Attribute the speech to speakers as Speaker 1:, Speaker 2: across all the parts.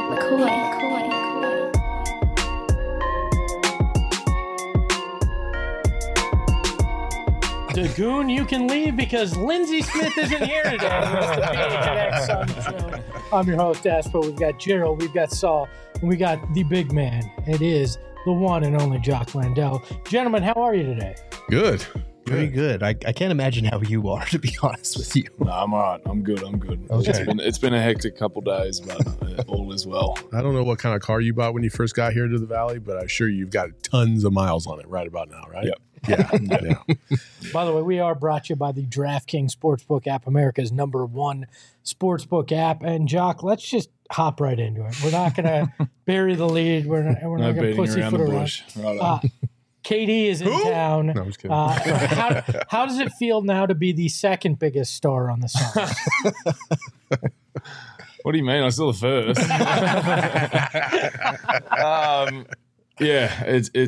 Speaker 1: Dagoon, you can leave because Lindsey Smith isn't here today. It's the PHNX Sun Show. I'm your host, Aspo. We've got Gerald, we've got Saul, and we got the big man. It is the one and only Jock Landell. Gentlemen, how are you today?
Speaker 2: Good.
Speaker 3: Pretty good. I can't imagine how you are, to be honest with you.
Speaker 4: No, I'm all right. I'm good.
Speaker 3: Okay.
Speaker 4: It's been a hectic couple days, but all is well.
Speaker 2: I don't know what kind of car you bought when you first got here to the Valley, but I'm sure you've got tons of miles on it right about now, right?
Speaker 4: Yep.
Speaker 2: Yeah.
Speaker 1: By the way, we are brought to you by the DraftKings Sportsbook app, America's #1 sportsbook app. And Jock, let's just hop right into it. We're not going to bury the lead. We're not going to
Speaker 4: beating
Speaker 1: pussyfoot
Speaker 4: around the
Speaker 1: around.
Speaker 4: bush. Right on.
Speaker 1: KD is in town.
Speaker 2: No, I'm just kidding.
Speaker 1: How does it feel now to be the second biggest star on the Suns?
Speaker 4: What do you mean? I'm still the first. Yeah,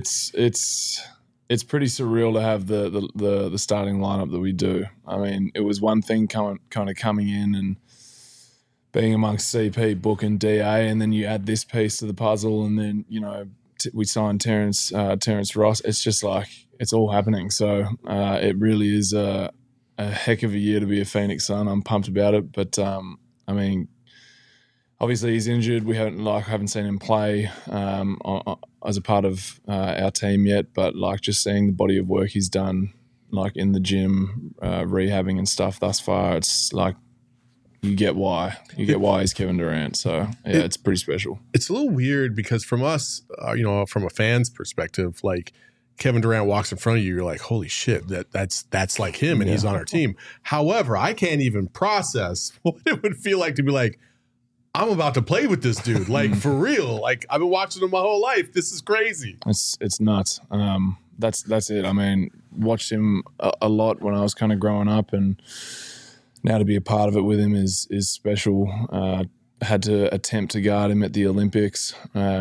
Speaker 4: it's pretty surreal to have the starting lineup that we do. I mean, it was one thing kind of coming in and being amongst CP, Book, and DA, and then you add this piece to the puzzle, and then we signed Terrence Ross. It's just like it's all happening. So it really is a heck of a year to be a Phoenix Sun. I'm pumped about it, but I mean, obviously he's injured. We haven't seen him play as a part of our team yet. But like just seeing the body of work he's done, like in the gym, rehabbing and stuff thus far, it's like you get why he's Kevin Durant. So yeah, it's pretty special.
Speaker 2: It's a little weird because from us, from a fan's perspective, like Kevin Durant walks in front of you, you're like, holy shit, that's like him and he's on our team. However, I can't even process what it would feel like to be like, I'm about to play with this dude, like for real. Like I've been watching him my whole life. This is crazy.
Speaker 4: It's nuts. That's it. I mean, watched him a lot when I was kind of growing up, and now to be a part of it with him is special. Had to attempt to guard him at the Olympics.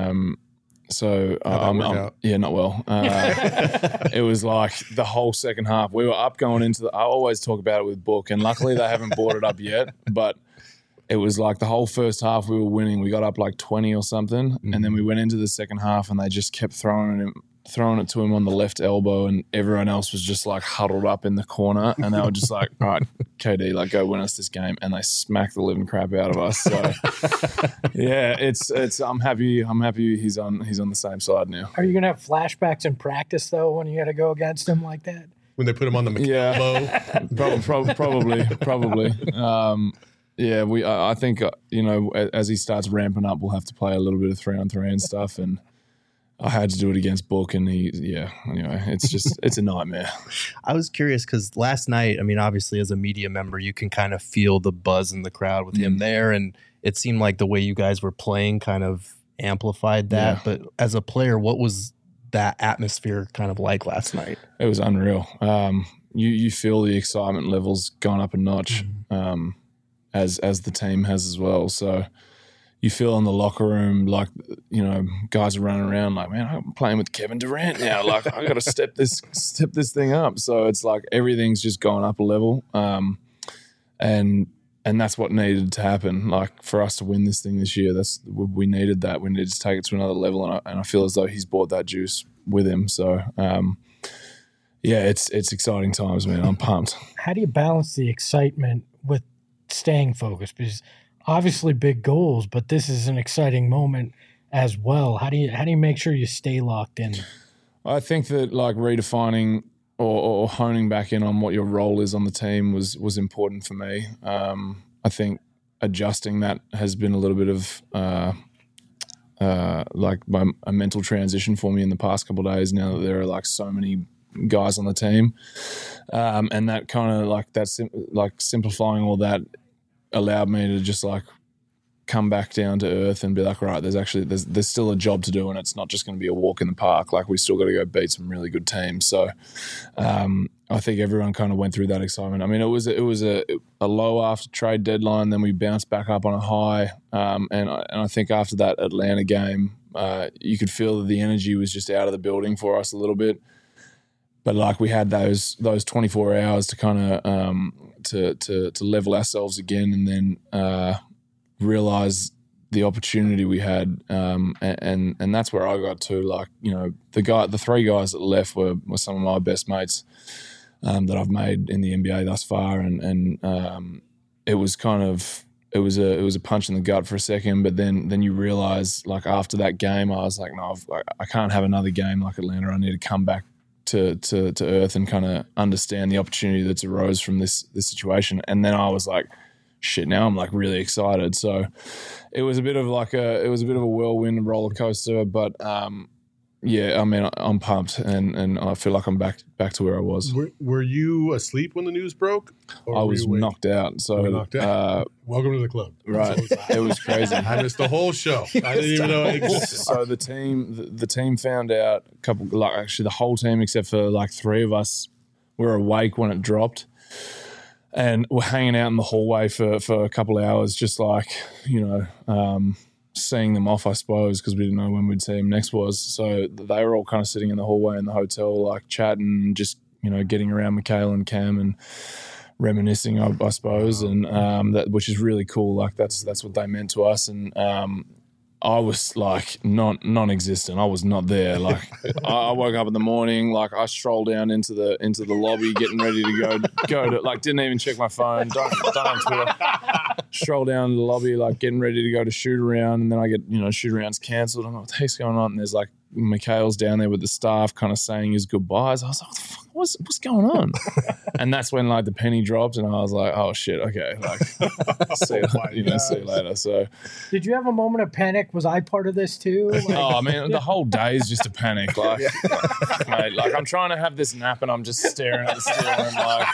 Speaker 4: So not well. It was like the whole second half. We were up going into I always talk about it with Book, and luckily they haven't brought it up yet, but it was like the whole first half we were winning. We got up like 20 or something, and then we went into the second half and they just kept throwing it to him on the left elbow, and everyone else was just like huddled up in the corner, and they were just like, all right, KD, like go win us this game, and they smacked the living crap out of us. So yeah, it's I'm happy he's on the same side now.
Speaker 1: Are you going to have flashbacks in practice though when you got to go against him like that?
Speaker 2: When they put him on the
Speaker 4: McCallum probably. Yeah, I think as he starts ramping up, we'll have to play a little bit of 3-on-3 and stuff, and I had to do it against Book, and anyway, it's a nightmare.
Speaker 3: I was curious because last night, I mean, obviously as a media member, you can kind of feel the buzz in the crowd with him there, and it seemed like the way you guys were playing kind of amplified that. Yeah. But as a player, what was that atmosphere kind of like last night?
Speaker 4: It was unreal. You feel the excitement levels going up a notch. As the team has as well. So you feel in the locker room like, guys are running around like, man, I'm playing with Kevin Durant now. Like I got to step this thing up. So it's like everything's just going up a level. And that's what needed to happen. Like for us to win this thing this year, we needed that. We needed to take it to another level. And I feel as though he's brought that juice with him. So, yeah, it's exciting times, man. I'm pumped.
Speaker 1: How do you balance the excitement with staying focused? Because obviously big goals, but this is an exciting moment as well. How do you make sure you stay locked in?
Speaker 4: I think that like redefining or honing back in on what your role is on the team was important for me. I think adjusting that has been a little bit of a mental transition for me in the past couple of days now that there are like so many guys on the team, and that kind of like that's like simplifying all that allowed me to just like come back down to earth and be like, right, there's still a job to do, and it's not just going to be a walk in the park. Like we still got to go beat some really good teams. So I think everyone kind of went through that excitement. I mean, it was a low after trade deadline, then we bounced back up on a high, and I think after that Atlanta game, you could feel that the energy was just out of the building for us a little bit. But like we had those 24 hours to kind of to level ourselves again, and then realize the opportunity we had, and that's where I got to. Like, you know, the three guys that left were some of my best mates that I've made in the NBA thus far, and it was kind of it was a punch in the gut for a second, but then you realize, like, after that game, I was like, no, I can't have another game like Atlanta. I need to come back to earth and kind of understand the opportunity that's arose from this situation. And then I was like, shit, now I'm like really excited. So it was a bit of a whirlwind roller coaster, but yeah, I mean, I'm pumped and I feel like I'm back to where I was.
Speaker 2: Were you asleep when the news broke?
Speaker 4: I was knocked out. So
Speaker 2: welcome to the club.
Speaker 4: Right. It was crazy.
Speaker 2: I missed the whole show. I didn't even know it existed.
Speaker 4: So the team found out actually the whole team except for like three of us were awake when it dropped. And we're hanging out in the hallway for a couple of hours, just like, you know, seeing them off, I suppose, because we didn't know when we'd see them next was. So they were all kind of sitting in the hallway in the hotel, like chatting, just, you know, getting around Mikal and Cam and reminiscing, I suppose, and that, which is really cool. Like that's what they meant to us, and I was like non-existent. I was not there. Like I woke up in the morning, like I strolled down into the lobby, getting ready to go to, like, didn't even check my phone. Don't have Twitter. Stroll down to the lobby, like getting ready to go to shoot around, and then I get, you know, shoot around's cancelled. I'm like, what the heck's going on? And there's like Mikal's down there with the staff, kind of saying his goodbyes. I was like, what the fuck? What's going on? And that's when like the penny dropped, and I was like, oh shit, okay, like see you later. So,
Speaker 1: did you have a moment of panic? Was I part of this too? Like,
Speaker 4: oh man, the whole day is just a panic. Like, mate, like I'm trying to have this nap, and I'm just staring at the ceiling, like,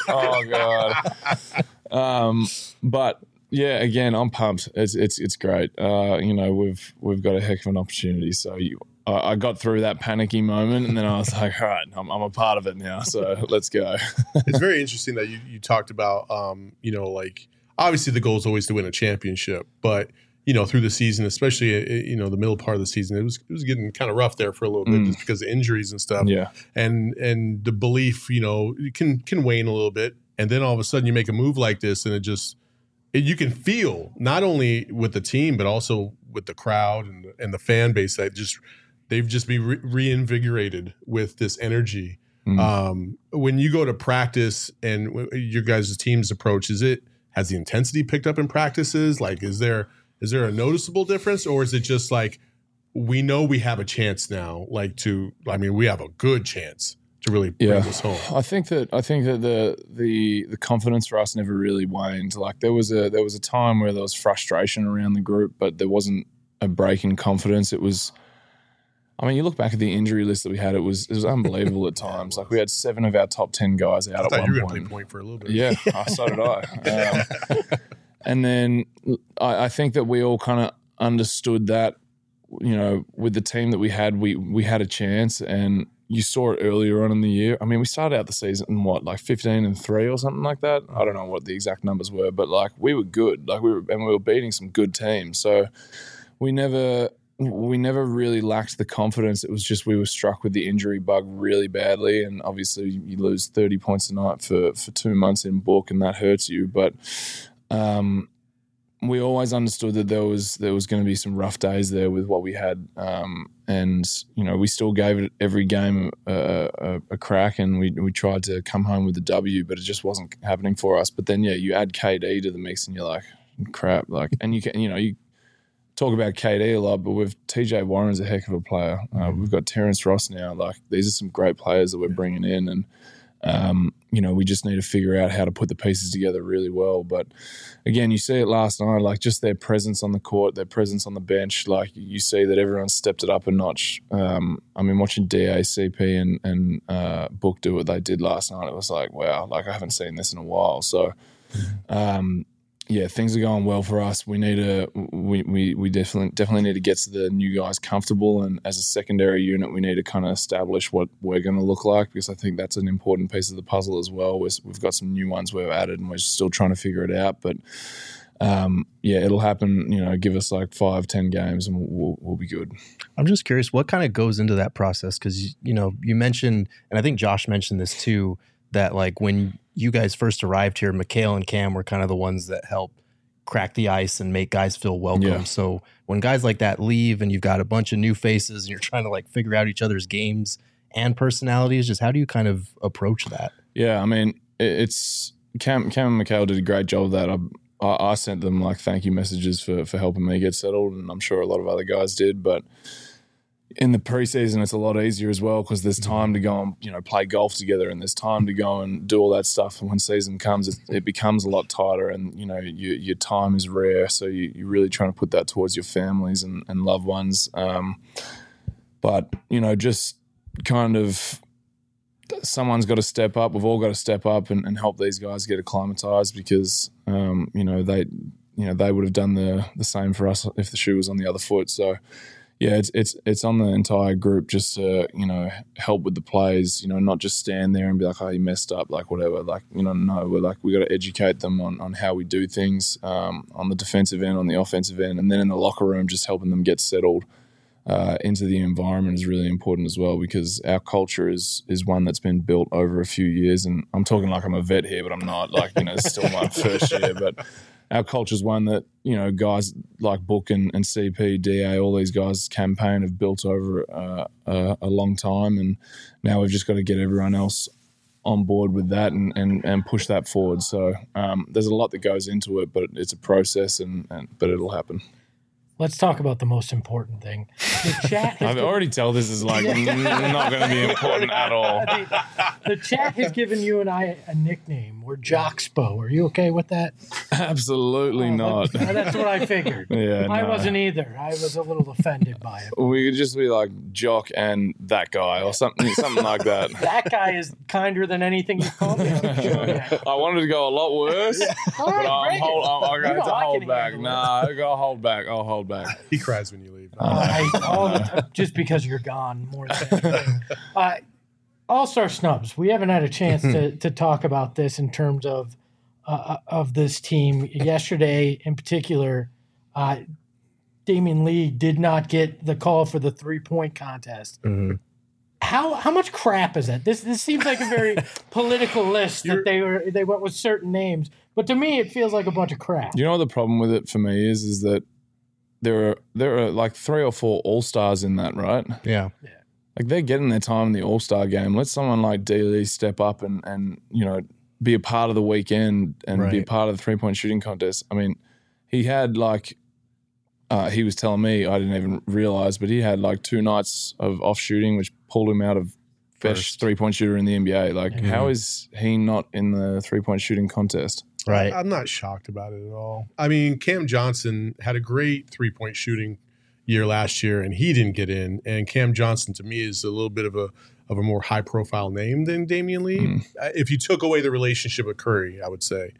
Speaker 4: oh god. But yeah, again, I'm pumped. It's great. You know, we've got a heck of an opportunity. So I got through that panicky moment, and then I was like, all right, I'm a part of it now, so let's go.
Speaker 2: It's very interesting that you talked about, you know, like obviously the goal is always to win a championship, but, you know, through the season, especially, you know, the middle part of the season, it was getting kind of rough there for a little bit just because of injuries and stuff.
Speaker 4: Yeah.
Speaker 2: And the belief, you know, can wane a little bit. And then all of a sudden you make a move like this, and you can feel not only with the team, but also with the crowd and the fan base that they've just been reinvigorated with this energy. When you go to practice and your guys' team's approach, has the intensity picked up in practices? Like, is there a noticeable difference, or is it just like, we know we have a chance now, like we have a good chance to really bring this home?
Speaker 4: I think that the confidence for us never really waned. Like there was a time where there was frustration around the group, but there wasn't a break in confidence. It was, I mean, you look back at the injury list that we had, it was unbelievable at times. Like we had 7 of our top 10 guys out at one point. I thought you were going to
Speaker 2: play point for a little bit.
Speaker 4: Yeah, so did I. And then I think that we all kind of understood that, you know, with the team that we had a chance, and you saw it earlier on in the year. I mean, we started out the season in like 15-3 or something like that. I don't know what the exact numbers were, but like we were good. Like we were beating some good teams. So we never really lacked the confidence. It was just we were struck with the injury bug really badly, and obviously you lose 30 points a night for 2 months in book, and that hurts you. But we always understood that there was going to be some rough days there with what we had, and you know, we still gave it every game a crack, and we tried to come home with the W, but it just wasn't happening for us. But then you add KD to the mix, and you're like, crap, like, and you talk about KD a lot, but with TJ Warren's a heck of a player. We've got Terrence Ross now. Like, these are some great players that we're bringing in, and you know, we just need to figure out how to put the pieces together really well. But again, you see it last night, like just their presence on the court, their presence on the bench. Like, you see that everyone stepped it up a notch. I mean, watching DA, CP, and Book do what they did last night, it was like, wow, like I haven't seen this in a while. So, yeah, things are going well for us. We need we definitely need to get to the new guys comfortable, and as a secondary unit, we need to kind of establish what we're going to look like, because I think that's an important piece of the puzzle as well. We've got some new ones we've added, and we're still trying to figure it out. But yeah, it'll happen. You know, give us like 5-10 games, and we'll be good.
Speaker 3: I'm just curious, what kind of goes into that process? Because you know, you mentioned, and I think Josh mentioned this too, that like when you guys first arrived here, Mikal and Cam were kind of the ones that helped crack the ice and make guys feel welcome.
Speaker 4: Yeah.
Speaker 3: So when guys like that leave and you've got a bunch of new faces and you're trying to like figure out each other's games and personalities, just how do you kind of approach that?
Speaker 4: Yeah, I mean, it's Cam and Mikhail did a great job of that. I sent them like thank you messages for helping me get settled, and I'm sure a lot of other guys did. But in the preseason, it's a lot easier as well because there's time to go and play golf together, and there's time to go and do all that stuff. And when season comes, it becomes a lot tighter, and your time is rare. So you're really trying to put that towards your families and loved ones. But just kind of someone's got to step up. We've all got to step up and help these guys get acclimatized because they would have done the same for us if the shoe was on the other foot. So yeah, it's on the entire group just to help with the plays. Not just stand there and be like, oh, you messed up, like whatever. Like no, we got to educate them on how we do things on the defensive end, on the offensive end, and then in the locker room, just helping them get settled into the environment is really important as well because our culture is one that's been built over a few years. And I'm talking like I'm a vet here, but I'm not. Like it's still my first year, but our culture is one that guys like Book and CP, DA, all these guys campaign have built over a long time, and now we've just got to get everyone else on board with that and push that forward. So there's a lot that goes into it, but it's a process, but it'll happen.
Speaker 1: Let's talk about the most important thing. The chat
Speaker 4: I've already tell this is like not going to be important at all.
Speaker 1: The chat has given you and I a nickname. We're Jockspo. Are you okay with that?
Speaker 4: Absolutely not.
Speaker 1: That's what I figured.
Speaker 4: Yeah,
Speaker 1: I wasn't either. I was a little offended by it.
Speaker 4: We could just be like Jock and that guy or something like that.
Speaker 1: That guy is kinder than anything you called me.
Speaker 4: I wanted to go a lot worse, but I'm going to hold back. Nah, I got to hold back. I'll hold back.
Speaker 2: He cries when you leave.
Speaker 1: Just because you're gone more than anything. All-Star snubs. We haven't had a chance to talk about this in terms of this team. Yesterday, in particular, Damian Lee did not get the call for the 3-point contest. Mm-hmm. How much crap is that? This seems like a very political list that they went with certain names, but to me, it feels like a bunch of crap.
Speaker 4: You know what the problem with it for me is that there are like 3 or 4 all-stars in that, right?
Speaker 3: Yeah.
Speaker 4: Like they're getting their time in the all-star game. Let someone like D. step up and be a part of the weekend and be a part of the 3-point shooting contest. I mean, he had like he was telling me, I didn't even realize, but he had like 2 nights of off shooting, which pulled him out of best 3-point shooter in the NBA. Like, how is he not in the 3-point shooting contest?
Speaker 3: Right.
Speaker 2: I'm not shocked about it at all. I mean, Cam Johnson had a great 3-point shooting year last year, and he didn't get in. And Cam Johnson, to me, is a little bit of a more high-profile name than Damian Lee. If you took away the relationship with Curry, I would say.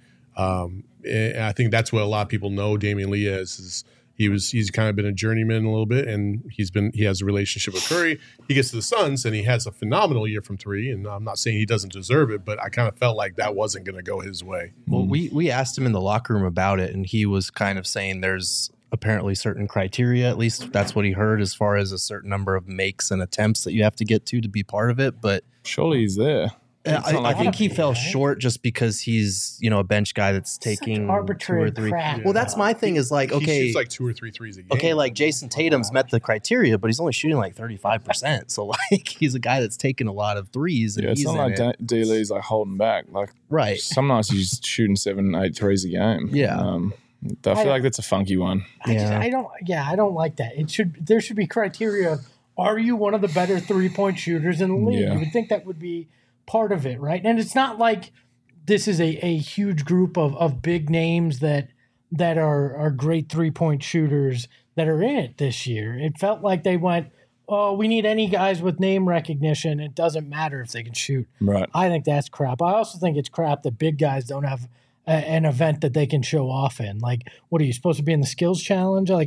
Speaker 2: And I think that's what a lot of people know Damian Lee as. Is he's kind of been a journeyman a little bit, and he has a relationship with Curry. He gets to the Suns, and he has a phenomenal year from 3. And I'm not saying he doesn't deserve it, but I kind of felt like that wasn't going to go his way.
Speaker 3: Well, we asked him in the locker room about it, and he was kind of saying there's apparently certain criteria, at least that's what he heard, as far as a certain number of makes and attempts that you have to get to be part of it. But
Speaker 4: surely he's there.
Speaker 3: I think he fell short just because he's, a bench guy that's taking 2 or 3.
Speaker 1: Crap.
Speaker 3: Well, that's my thing is like, okay.
Speaker 2: He shoots like 2 or 3 threes a game.
Speaker 3: Okay, like Jason Tatum's met the criteria, but he's only shooting like 35%. So like he's a guy that's taking a lot of threes. And
Speaker 4: it's not like D. Lee's like holding back. Like some nights he's shooting 7, 8 threes a game.
Speaker 3: Yeah.
Speaker 4: I feel like that's a funky one.
Speaker 1: I don't like that. There should be criteria. Are you one of the better 3-point shooters in the league?
Speaker 4: Yeah.
Speaker 1: You would think that would be part of it, right? And it's not like this is a huge group of big names that are great 3-point shooters that are in it this year. It felt like they went, oh, we need any guys with name recognition. It doesn't matter if they can shoot.
Speaker 4: Right.
Speaker 1: I think that's crap. I also think it's crap that big guys don't have an event that they can show off in. Like, what are you supposed to be in the skills challenge? Like,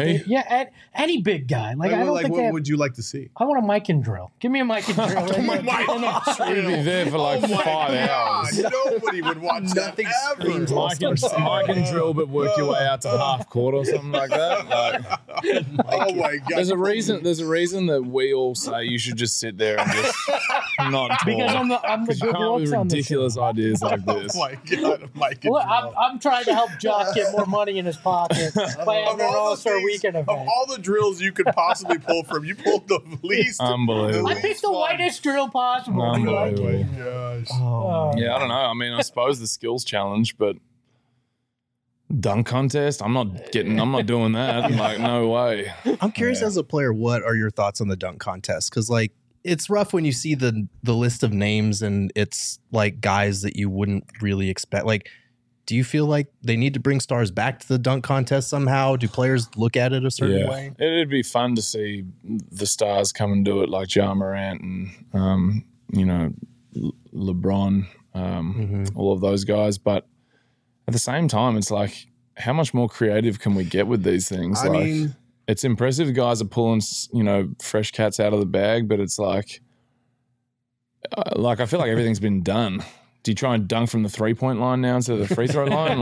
Speaker 1: any big guy. Like, I don't think
Speaker 2: what would you like to see?
Speaker 1: I want a mic and drill. Give me a mic and drill.
Speaker 4: We'd be there for like 5 hours.
Speaker 2: Nobody would watch
Speaker 3: Nothing
Speaker 2: that ever.
Speaker 4: Mike and drill, but work your way out to half court or something like that.
Speaker 2: Oh my God!
Speaker 4: There's a reason that we all say you should just sit there and just not tall.
Speaker 1: Because I'm the
Speaker 4: You
Speaker 1: good
Speaker 4: can't
Speaker 1: looks
Speaker 4: with
Speaker 1: on the
Speaker 4: ridiculous
Speaker 1: show.
Speaker 4: ideas like this.
Speaker 2: Oh my God, Mike. and
Speaker 1: Look,
Speaker 2: Joel.
Speaker 1: I'm trying to help Josh get more money in his pocket by
Speaker 2: Of
Speaker 1: having an
Speaker 2: all the
Speaker 1: All-Star
Speaker 2: things-
Speaker 1: Weekend
Speaker 2: Of
Speaker 1: event.
Speaker 2: all the drills you could possibly pull from, you pulled the least.
Speaker 4: Unbelievable.
Speaker 1: I picked the whitest drill possible. I like it.
Speaker 4: Unbelievable.
Speaker 2: Gosh.
Speaker 1: Oh,
Speaker 4: Yeah, I don't know. I mean, I suppose the skills challenge, but dunk contest, I'm not doing that. Like, no way.
Speaker 3: I'm curious as a player, what are your thoughts on the dunk contest? Because like it's rough when you see the list of names and it's like guys that you wouldn't really expect. Like, do you feel like they need to bring stars back to the dunk contest somehow? Do players look at it a certain way?
Speaker 4: It'd be fun to see the stars come and do it, like Ja Morant and LeBron, all of those guys. But at the same time, it's like, how much more creative can we get with these things?
Speaker 2: I mean,
Speaker 4: it's impressive guys are pulling, fresh cats out of the bag, but it's like I feel like everything's been done. Do you try and dunk from the 3-point line now instead of the free throw line?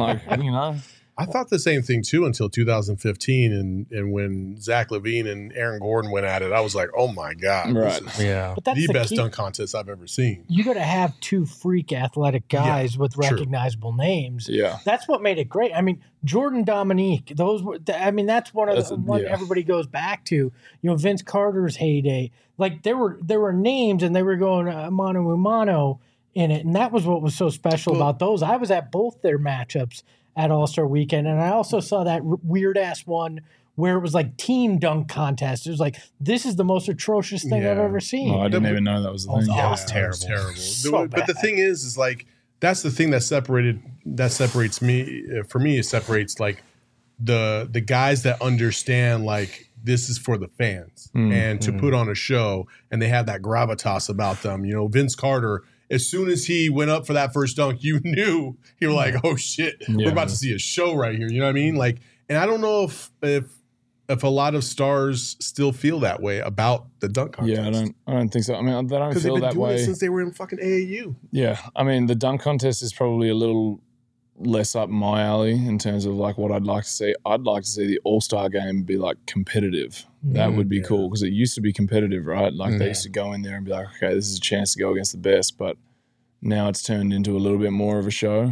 Speaker 2: I thought the same thing too until 2015, and when Zach LaVine and Aaron Gordon went at it, I was like, "Oh my God,
Speaker 4: Right.
Speaker 2: this is
Speaker 3: Yeah.
Speaker 1: but that's
Speaker 2: the best
Speaker 1: key.
Speaker 2: dunk contest I've ever seen."
Speaker 1: You got to have two freak athletic guys with
Speaker 2: true.
Speaker 1: recognizable names.
Speaker 4: Yeah.
Speaker 1: That's what made it great. I mean, Jordan Dominique, those were, that's one of the one everybody goes back to. Vince Carter's heyday. Like there were names and they were going mano a mano in it. And that was what was so special about those. I was at both their matchups at All-Star Weekend. And I also saw that weird ass one where it was like team dunk contest. It was like, this is the most atrocious thing I've ever seen.
Speaker 4: Oh, I didn't even know that was the thing.
Speaker 1: Yeah,
Speaker 2: It was terrible.
Speaker 1: So
Speaker 2: But the
Speaker 1: bad.
Speaker 2: thing is like that's the thing that separates me. For me, it separates like the guys that understand like this is for the fans and to put on a show, and they have that gravitas about them. Vince Carter. As soon as he went up for that first dunk, you knew you were like, "Oh shit, we're about to see a show right here." You know what I mean? Like, and I don't know if a lot of stars still feel that way about the dunk contest.
Speaker 4: Yeah, I don't think so. I mean, they don't
Speaker 2: Because they've
Speaker 4: feel
Speaker 2: been
Speaker 4: that
Speaker 2: doing
Speaker 4: way
Speaker 2: it since they were in fucking AAU.
Speaker 4: Yeah, I mean, the dunk contest is probably a little less up my alley in terms of like what I'd like to see. I'd like to see the All-Star game be like competitive. That would be cool because it used to be competitive, right? Like they used to go in there and be like, okay, this is a chance to go against the best, but now it's turned into a little bit more of a show.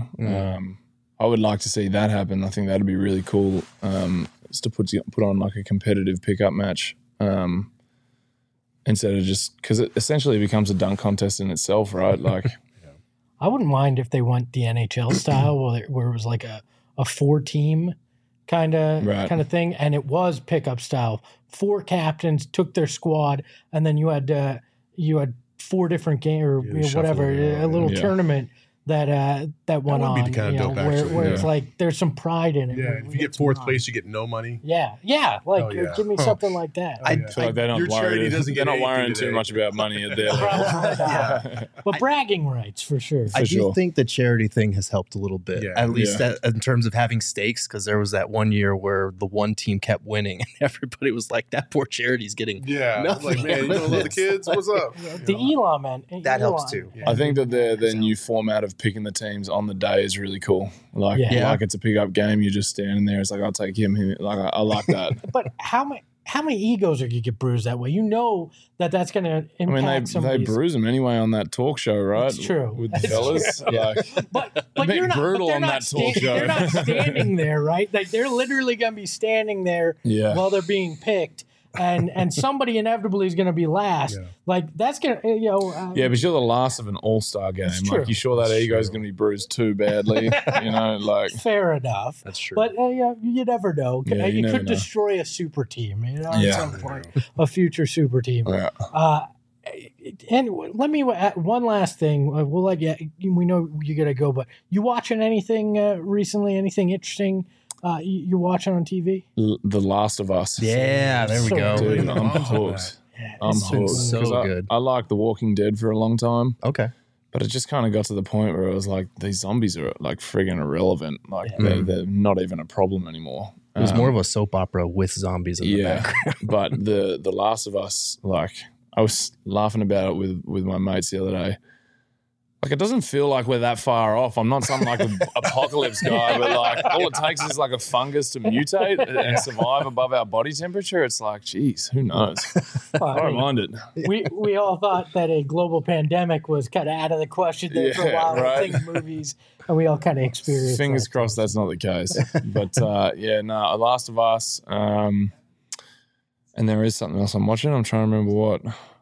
Speaker 4: I would like to see that happen. I think that'd be really cool. Is to put on like a competitive pickup match instead of just because it essentially becomes a dunk contest in itself, right? Like,
Speaker 1: I wouldn't mind if they went the NHL style where it was like a 4-team kind of thing, and it was pickup style. 4 captains took their squad, and then you had 4 different games or whatever, a little tournament that went
Speaker 2: would
Speaker 1: on.
Speaker 2: be kinda dope,
Speaker 1: where
Speaker 2: actually.
Speaker 1: it's like there's some pride in it.
Speaker 2: Yeah, if you get 4th place, you get no money.
Speaker 1: Yeah, give me something like that.
Speaker 4: I feel like they're not
Speaker 2: Your charity
Speaker 4: worried.
Speaker 2: doesn't
Speaker 4: They're
Speaker 2: get
Speaker 4: not
Speaker 2: anything
Speaker 4: worrying
Speaker 2: today.
Speaker 4: too much about money at their
Speaker 1: Yeah. But bragging rights for sure.
Speaker 3: I do
Speaker 4: sure.
Speaker 3: think the charity thing has helped a little bit,
Speaker 2: Yeah.
Speaker 3: at least in terms of having stakes, because there was that one year where the one team kept winning and everybody was like, that poor charity's getting
Speaker 2: Yeah,
Speaker 3: nothing.
Speaker 2: like man, you don't love the kids. What's up?
Speaker 1: The Elon man.
Speaker 3: That helps too.
Speaker 4: I think that the new format of picking the teams on the day is really cool. Like,
Speaker 1: Yeah.
Speaker 4: like it's a pickup game. You're just standing there. It's like, I'll take him. Like, I like that.
Speaker 1: But how many egos are going to get bruised that way? You know that's going to
Speaker 4: I
Speaker 1: impact
Speaker 4: mean, they
Speaker 1: somebody's.
Speaker 4: bruise them anyway on that talk show, right?
Speaker 1: It's true.
Speaker 4: With the
Speaker 1: It's
Speaker 4: fellas.
Speaker 1: true.
Speaker 4: Like,
Speaker 1: But
Speaker 4: bit
Speaker 1: you're not
Speaker 4: brutal
Speaker 1: but they're
Speaker 4: on
Speaker 1: not
Speaker 4: that talk show.
Speaker 1: They're not standing there, right? Like they're literally going to be standing there
Speaker 4: Yeah.
Speaker 1: while they're being picked, and somebody inevitably is going to be last.
Speaker 2: Yeah.
Speaker 1: Like that's going to
Speaker 4: yeah, but you're the last of an all-star game.
Speaker 1: It's true.
Speaker 4: Like, you sure that ego is going to be bruised too badly? Like,
Speaker 1: fair enough.
Speaker 3: That's true.
Speaker 1: But you never know.
Speaker 4: Yeah, you
Speaker 1: you
Speaker 4: never
Speaker 1: could
Speaker 4: know.
Speaker 1: destroy a super team. At
Speaker 4: Yeah.
Speaker 1: some point, a future super team.
Speaker 4: yeah.
Speaker 1: Anyway, let me one last thing. We'll let you. We know you got to go, but you watching anything recently? Anything interesting? You watching on TV?
Speaker 4: The Last of Us.
Speaker 3: yeah, there we
Speaker 1: So
Speaker 3: go.
Speaker 1: good.
Speaker 4: Dude, I'm hooked.
Speaker 1: Yeah,
Speaker 4: I'm
Speaker 1: it's
Speaker 4: hooked.
Speaker 3: so
Speaker 4: 'Cause
Speaker 3: good.
Speaker 4: I liked The Walking Dead for a long time,
Speaker 3: Okay.
Speaker 4: but it just kind of got to the point where it was like, these zombies are like friggin' irrelevant. Like,
Speaker 1: Yeah.
Speaker 4: they're not even a problem anymore.
Speaker 3: It was more of a soap opera with zombies in the background.
Speaker 4: But the Last of Us, like, I was laughing about it with my mates the other day. like it doesn't feel like we're that far off. I'm not some like an apocalypse guy, but like all it takes is like a fungus to mutate and survive above our body temperature. It's like, geez, who knows? I don't mind it.
Speaker 1: We all thought that a global pandemic was kind of out of the question there for a while.
Speaker 4: Right.
Speaker 1: Think movies, and we all kind of experienced.
Speaker 4: Fingers crossed that's not the case. But Last of Us. And there is something else I'm watching. I'm trying to remember what.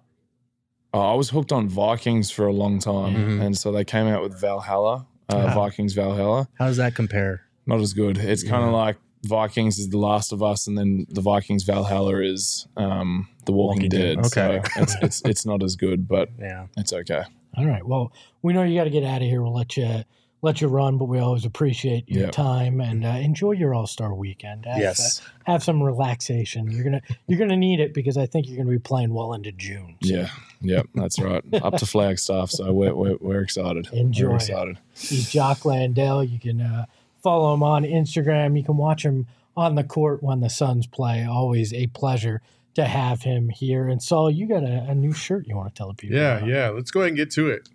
Speaker 4: I was hooked on Vikings for a long time, and so they came out with Valhalla, Vikings Valhalla.
Speaker 3: How does that compare?
Speaker 4: Not as good. It's kind of like Vikings is The Last of Us, and then the Vikings Valhalla is The Walking Dead.
Speaker 3: Okay.
Speaker 4: So it's not as good, but it's okay.
Speaker 1: All right. Well, we know you got to get out of here. We'll let you run, but we always appreciate your time and enjoy your All-Star weekend. Have some relaxation. You're gonna need it because I think you're gonna be playing well into June. So.
Speaker 4: Yeah, that's right. Up to Flagstaff, so we're excited.
Speaker 1: Enjoy.
Speaker 4: We're excited.
Speaker 1: He's Jock Landale. You can follow him on Instagram. You can watch him on the court when the Suns play. Always a pleasure to have him here. And Saul, you got a new shirt you want to tell the people about.
Speaker 2: Yeah. Let's go ahead and get to it.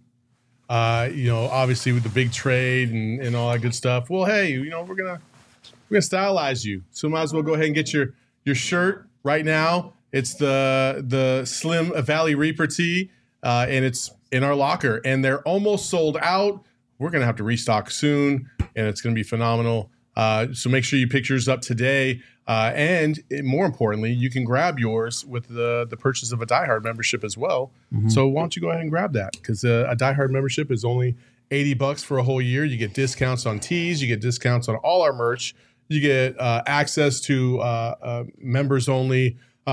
Speaker 2: Obviously with the big trade and all that good stuff. Well, hey, we're gonna stylize you, so might as well go ahead and get your shirt right now. It's the Slim Valley Reaper tee, and it's in our locker, and they're almost sold out. We're gonna have to restock soon, and it's gonna be phenomenal. So make sure you pick yours up today. And more importantly, you can grab yours with the purchase of a Die Hard membership as well. Mm-hmm. So why don't you go ahead and grab that? Because a Die Hard membership is only $80 for a whole year. You get discounts on tees. You get discounts on all our merch. You get access to members only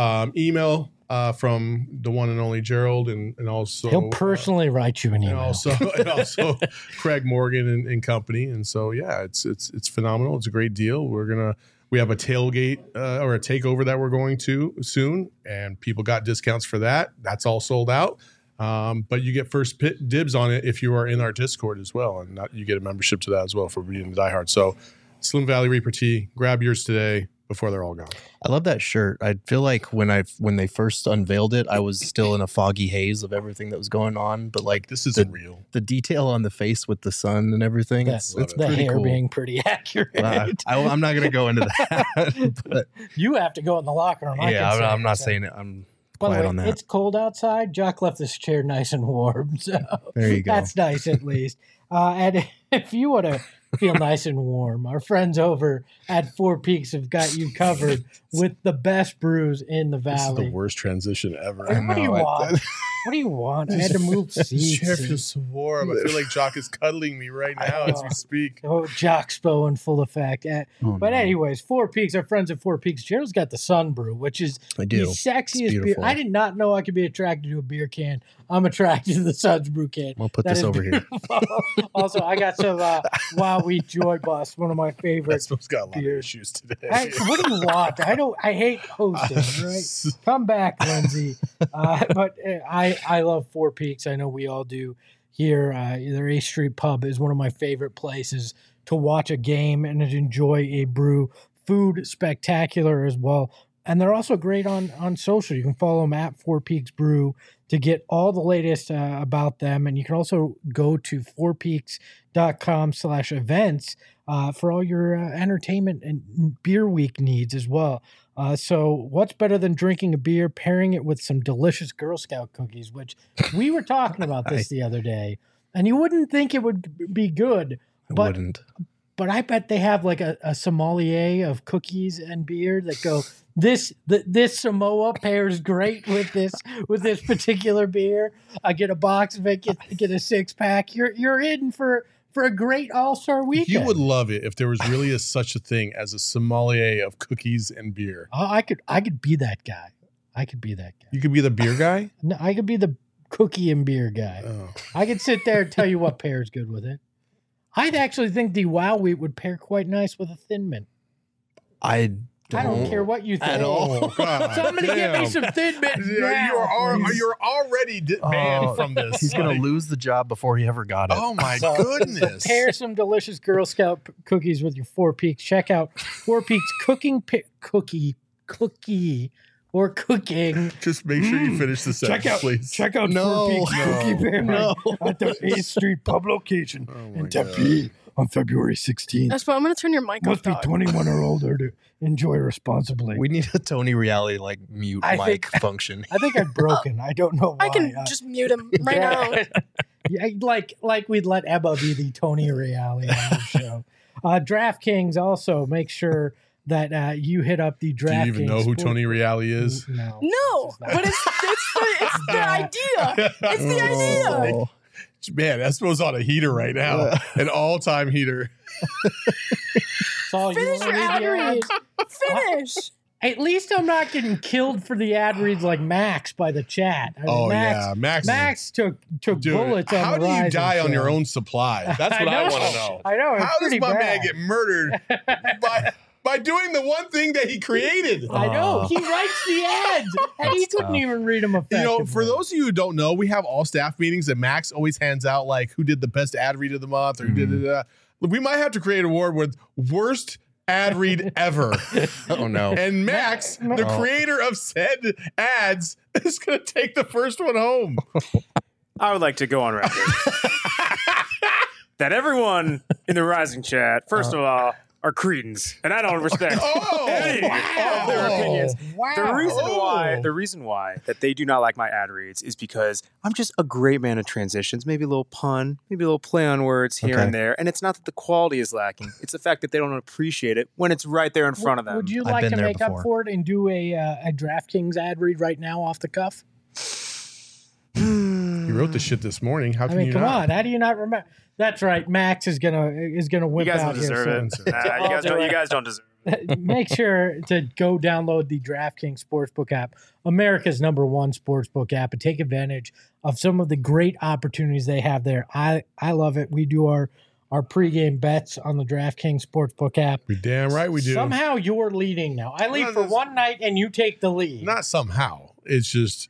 Speaker 2: email from the one and only Gerald, and also
Speaker 1: he'll personally write you an email.
Speaker 2: And also Craig Morgan and company. And so it's phenomenal. It's a great deal. We have a tailgate or a takeover that we're going to soon, and people got discounts for that. That's all sold out. But you get first dibs on it if you are in our Discord as well, and you get a membership to that as well for being a diehard. So Slim Valley Reaper tee, grab yours today before they're all gone. I
Speaker 3: love that shirt. I feel like when they first unveiled it, I was still in a foggy haze of everything that was going on. But like
Speaker 2: this isn't real.
Speaker 3: The detail on the face with the sun and everything, it's
Speaker 1: the
Speaker 3: pretty
Speaker 1: hair
Speaker 3: cool.
Speaker 1: being pretty accurate.
Speaker 3: I'm not going to go into that. But
Speaker 1: you have to go in the locker room.
Speaker 3: I'm not saying it. I'm quiet on that.
Speaker 1: It's cold outside. Jock left this chair nice and warm. So
Speaker 3: there you go.
Speaker 1: That's nice at least. And if you want to feel nice and warm, our friends over at Four Peaks have got you covered with the best brews in the valley.
Speaker 2: This is the worst transition ever.
Speaker 1: What do you want? What do you want? I had to move seats.
Speaker 2: The chair feels so warm. I feel like Jock is cuddling me right now as we speak.
Speaker 1: Oh, Jockspo in full effect. But anyways, Four Peaks, our friends at Four Peaks. Gerald's got the Sun Brew, which is the sexiest beer. I did not know I could be attracted to a beer can. I'm attracted to the Sun's Brew can.
Speaker 3: We'll put this over here.
Speaker 1: Also, I got some Wild Wheat Joy Bust, one of my favorites.
Speaker 2: That's got a lot of issues today.
Speaker 1: What do you want? I hate hosting, right? Come back, Lindsay. But I love Four Peaks. I know we all do here. Their A Street Pub is one of my favorite places to watch a game and to enjoy a brew. Food spectacular as well. And they're also great on social. You can follow them at Four Peaks Brew to get all the latest about them. And you can also go to fourpeaks.com/events for all your entertainment and beer week needs as well. So what's better than drinking a beer, pairing it with some delicious Girl Scout cookies, which we were talking about this the other day. And you wouldn't think it would be good. But I bet they have like a sommelier of cookies and beer that go, this Samoa pairs great with this particular beer. I get a box of it, get a 6-pack. You're in for a great All-Star weekend.
Speaker 2: You would love it if there was really such a thing as a sommelier of cookies and beer.
Speaker 1: Oh, I could be that guy.
Speaker 2: You could be the beer guy?
Speaker 1: No, I could be the cookie and beer guy.
Speaker 2: Oh.
Speaker 1: I could sit there and tell you what pairs good with it. I'd actually think the Wow Wheat would pair quite nice with a Thin Mint.
Speaker 3: I
Speaker 1: don't care what you think.
Speaker 3: At all.
Speaker 1: Somebody give me some Thin Mint now.
Speaker 2: You're already banned from this.
Speaker 3: He's going to lose the job before he ever got it.
Speaker 2: Oh, my goodness.
Speaker 1: Pair some delicious Girl Scout cookies with your Four Peaks. Check out Four Peaks cookie or cooking.
Speaker 2: Just make sure you finish the sentence, please.
Speaker 1: Check out
Speaker 3: No.
Speaker 1: Four Peaks Cookie Pairing at the 8th Street pub location in Tempe on February 16th.
Speaker 5: Espo, I'm gonna turn your mic
Speaker 1: Must
Speaker 5: off.
Speaker 1: be 21 or older to enjoy responsibly.
Speaker 3: We need a Tony Reality like mute
Speaker 1: I
Speaker 3: mic
Speaker 1: think-
Speaker 3: function.
Speaker 1: I think I've broken. I don't know why.
Speaker 5: I can just mute him right now.
Speaker 1: Yeah, like we'd let Ebba be the Tony Reale on the show. DraftKings also make sure that you hit up the DraftKings.
Speaker 2: Do you even know who Tony Reale is?
Speaker 1: No.
Speaker 5: No, but it's the idea. It's the idea.
Speaker 3: Oh.
Speaker 2: Man, Espo's on a heater right now. An all-time heater.
Speaker 1: It's all you
Speaker 5: Finish your
Speaker 1: wanna
Speaker 5: ad
Speaker 1: read,
Speaker 5: read. Finish.
Speaker 1: At least I'm not getting killed for the ad reads like Max by the chat. I mean, Max took
Speaker 2: Dude,
Speaker 1: bullets on
Speaker 2: how
Speaker 1: the
Speaker 2: do you
Speaker 1: Rising
Speaker 2: die on
Speaker 1: show.
Speaker 2: your own supply? That's what I want to know.
Speaker 1: I know. It's
Speaker 2: How does
Speaker 1: pretty
Speaker 2: my man
Speaker 1: bad.
Speaker 2: get murdered by doing the one thing that he created?
Speaker 1: I know. He writes the ads, and he couldn't
Speaker 3: tough.
Speaker 1: even read them effectively.
Speaker 2: You know, for those of you who don't know, we have all staff meetings and Max always hands out like who did the best ad read of the month or who did it. We might have to create an award with worst ad read ever.
Speaker 3: Oh no.
Speaker 2: And Max, the creator of said ads, is going to take the first one home.
Speaker 6: I would like to go on record that everyone in the Rising chat, first of all, are cretins, and I don't respect any of their opinions.
Speaker 1: Wow.
Speaker 6: The reason why that they do not like my ad reads is because I'm just a great man of transitions, maybe a little pun, maybe a little play on words here and there, and it's not that the quality is lacking; it's the fact that they don't appreciate it when it's right there in front of them.
Speaker 1: Would you
Speaker 3: I've
Speaker 1: like
Speaker 3: been
Speaker 1: to
Speaker 3: there
Speaker 1: make up
Speaker 3: before.
Speaker 1: for it and do a DraftKings ad read right now off the cuff?
Speaker 2: You wrote the shit this morning. How
Speaker 1: I
Speaker 2: can
Speaker 1: mean,
Speaker 2: you
Speaker 1: come
Speaker 2: not?
Speaker 1: on. How do you not remember? That's right. Max is gonna
Speaker 6: You
Speaker 1: whip
Speaker 6: guys
Speaker 1: out
Speaker 6: don't deserve
Speaker 1: here
Speaker 6: it.
Speaker 1: soon.
Speaker 6: You guys don't deserve it.
Speaker 1: Make sure to go download the DraftKings Sportsbook app, America's #1 sportsbook app, and take advantage of some of the great opportunities they have there. I love it. We do our pregame bets on the DraftKings Sportsbook app.
Speaker 2: You're damn right we do.
Speaker 1: Somehow you're leading now. I lead
Speaker 2: No,
Speaker 1: for
Speaker 2: that's-
Speaker 1: one night and you take the lead.
Speaker 2: Not somehow. It's just,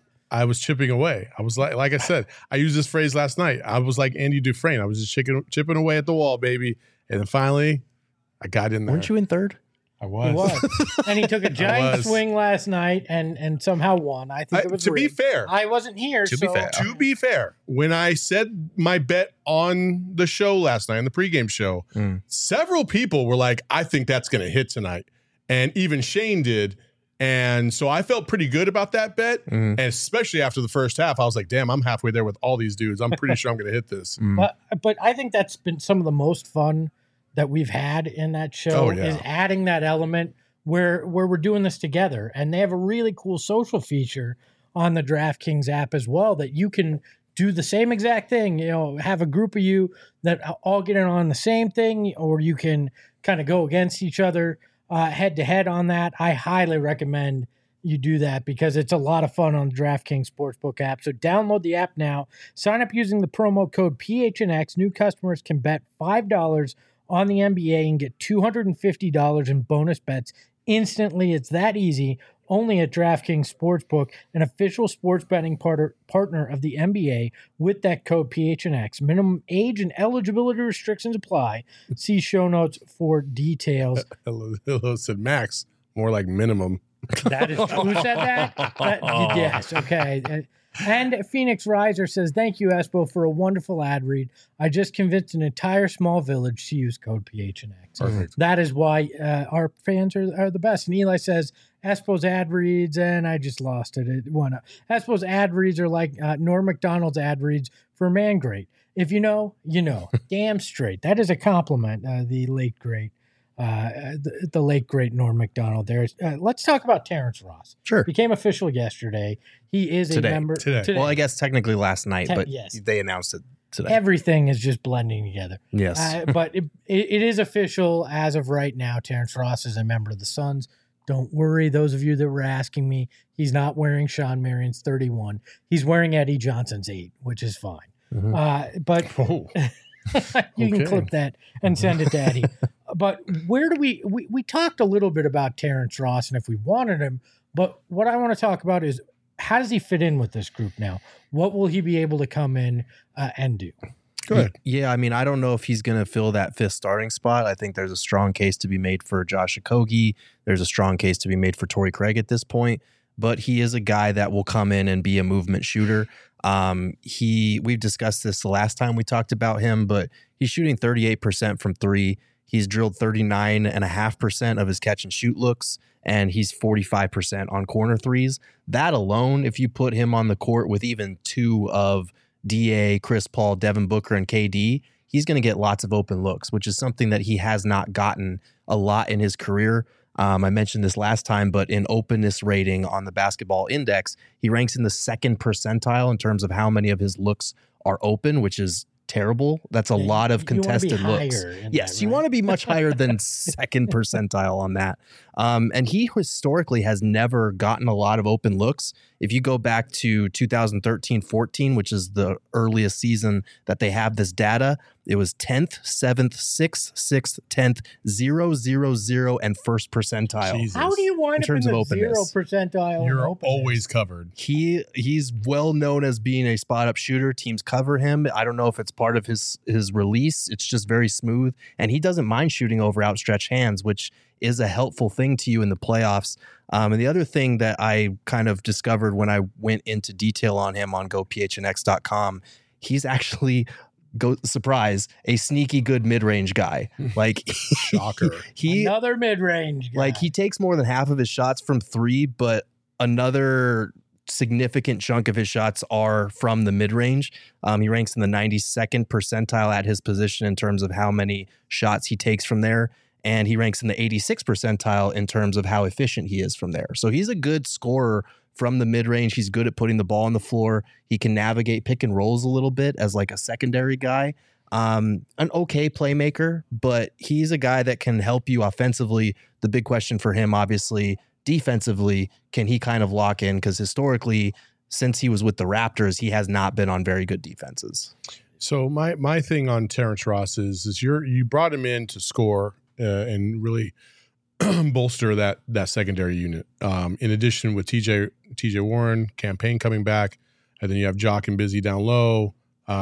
Speaker 2: I was chipping away. I was like I said, I used this phrase last night. I was like Andy Dufresne. I was just chipping away at the wall, baby. And then finally, I got in there.
Speaker 3: Weren't you in third?
Speaker 2: I
Speaker 1: He
Speaker 2: was.
Speaker 1: was. And he took a giant
Speaker 2: was.
Speaker 1: swing last night and somehow won. I think it was
Speaker 2: To be
Speaker 1: rigged.
Speaker 2: fair,
Speaker 1: I wasn't here.
Speaker 3: To be
Speaker 1: so
Speaker 3: fair.
Speaker 2: to be fair, when I said my bet on the show last night, on the pregame show, several people were like, I think that's going to hit tonight. And even Shane did. And so I felt pretty good about that bet. And especially after the first half, I was like, damn, I'm halfway there with all these dudes. I'm pretty sure I'm going to hit this.
Speaker 1: But I think that's been some of the most fun that we've had in that show
Speaker 2: Oh, yeah.
Speaker 1: is adding that element where we're doing this together. And they have a really cool social feature on the DraftKings app as well that you can do the same exact thing, have a group of you that all get in on the same thing, or you can kind of go against each other head to head on that. I highly recommend you do that because it's a lot of fun on the DraftKings Sportsbook app. So download the app now. Sign up using the promo code PHNX. New customers can bet $5 on the NBA and get $250 in bonus bets instantly. It's that easy. Only at DraftKings Sportsbook, an official sports betting partner of the NBA with that code PHNX. Minimum age and eligibility restrictions apply. See show notes for details.
Speaker 2: Hello said Max, more like minimum.
Speaker 1: That is who said that? Yes, okay. And Phoenix Riser says, thank you, Espo, for a wonderful ad read. I just convinced an entire small village to use code PHNX.
Speaker 2: Perfect.
Speaker 1: That is why our fans are the best. And Eli says, Espo's ad reads, and I just lost it. It went up. Espo's ad reads are like Norm Macdonald's ad reads for Man Great. If you know, you know. Damn straight. That is a compliment, the late great. The late great Norm Macdonald there. Let's talk about Terrence Ross.
Speaker 3: Sure.
Speaker 1: Became official yesterday. He is
Speaker 3: Today.
Speaker 1: a member
Speaker 2: Today.
Speaker 3: Well, I guess technically last night, but
Speaker 1: yes.
Speaker 3: they announced it today.
Speaker 1: Everything is just blending together.
Speaker 3: Yes.
Speaker 1: But it is official as of right now. Terrence Ross is a member of the Suns. Don't worry, those of you that were asking me, he's not wearing Sean Marion's 31. He's wearing Eddie Johnson's 8, which is fine. But
Speaker 2: Oh,
Speaker 1: you can
Speaker 2: Okay.
Speaker 1: clip that and send it to Eddie. But where do we talked a little bit about Terrence Ross and if we wanted him, but what I want to talk about is how does he fit in with this group now? What will he be able to come in and do?
Speaker 2: Go ahead.
Speaker 3: Yeah, I mean, I don't know if he's going to fill that 5th starting spot. I think there's a strong case to be made for Josh Okogie. There's a strong case to be made for Torrey Craig at this point. But he is a guy that will come in and be a movement shooter. We've discussed this the last time we talked about him, but he's shooting 38% from 3. He's drilled 39.5% of his catch and shoot looks, and he's 45% on corner threes. That alone, if you put him on the court with even 2 of DA, Chris Paul, Devin Booker, and KD, he's going to get lots of open looks, which is something that he has not gotten a lot in his career. I mentioned this last time, but in openness rating on the Basketball Index, he ranks in the 2nd percentile in terms of how many of his looks are open, which is terrible. That's a lot of contested looks. Yes, you want to be much higher than 2nd percentile on that. And he historically has never gotten a lot of open looks. If you go back to 2013-14, which is the earliest season that they have this data, it was 10th, 7th, 6th, 6th, 10th, 0, 0, 0, and 1st percentile.
Speaker 2: Jesus.
Speaker 1: How do you wind up in the 0 percentile?
Speaker 2: You're always covered.
Speaker 3: He's well known as being a spot up shooter. Teams cover him. I don't know if it's part of his release. It's just very smooth, and he doesn't mind shooting over outstretched hands, which is a helpful thing to you in the playoffs. And the other thing that I kind of discovered when I went into detail on him on gophnx.com, he's actually, surprise, a sneaky good mid-range guy. Like,
Speaker 2: shocker.
Speaker 1: Another mid-range guy.
Speaker 3: Like, he takes more than half of his shots from 3, but another significant chunk of his shots are from the mid-range. He ranks in the 92nd percentile at his position in terms of how many shots he takes from there. And he ranks in the 86th percentile in terms of how efficient he is from there. So he's a good scorer from the mid-range. He's good at putting the ball on the floor. He can navigate pick and rolls a little bit as like a secondary guy. An okay playmaker, but he's a guy that can help you offensively. The big question for him, obviously, defensively, can he kind of lock in? Because historically, since he was with the Raptors, he has not been on very good defenses.
Speaker 2: So my thing on Terrence Ross is you brought him in to score and really bolster that secondary unit. In addition, with TJ Warren, Campaign coming back, and then you have Jock and Busy down low.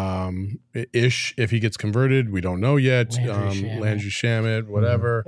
Speaker 2: Ish, if he gets converted, we don't know yet. Landry Shamet, whatever.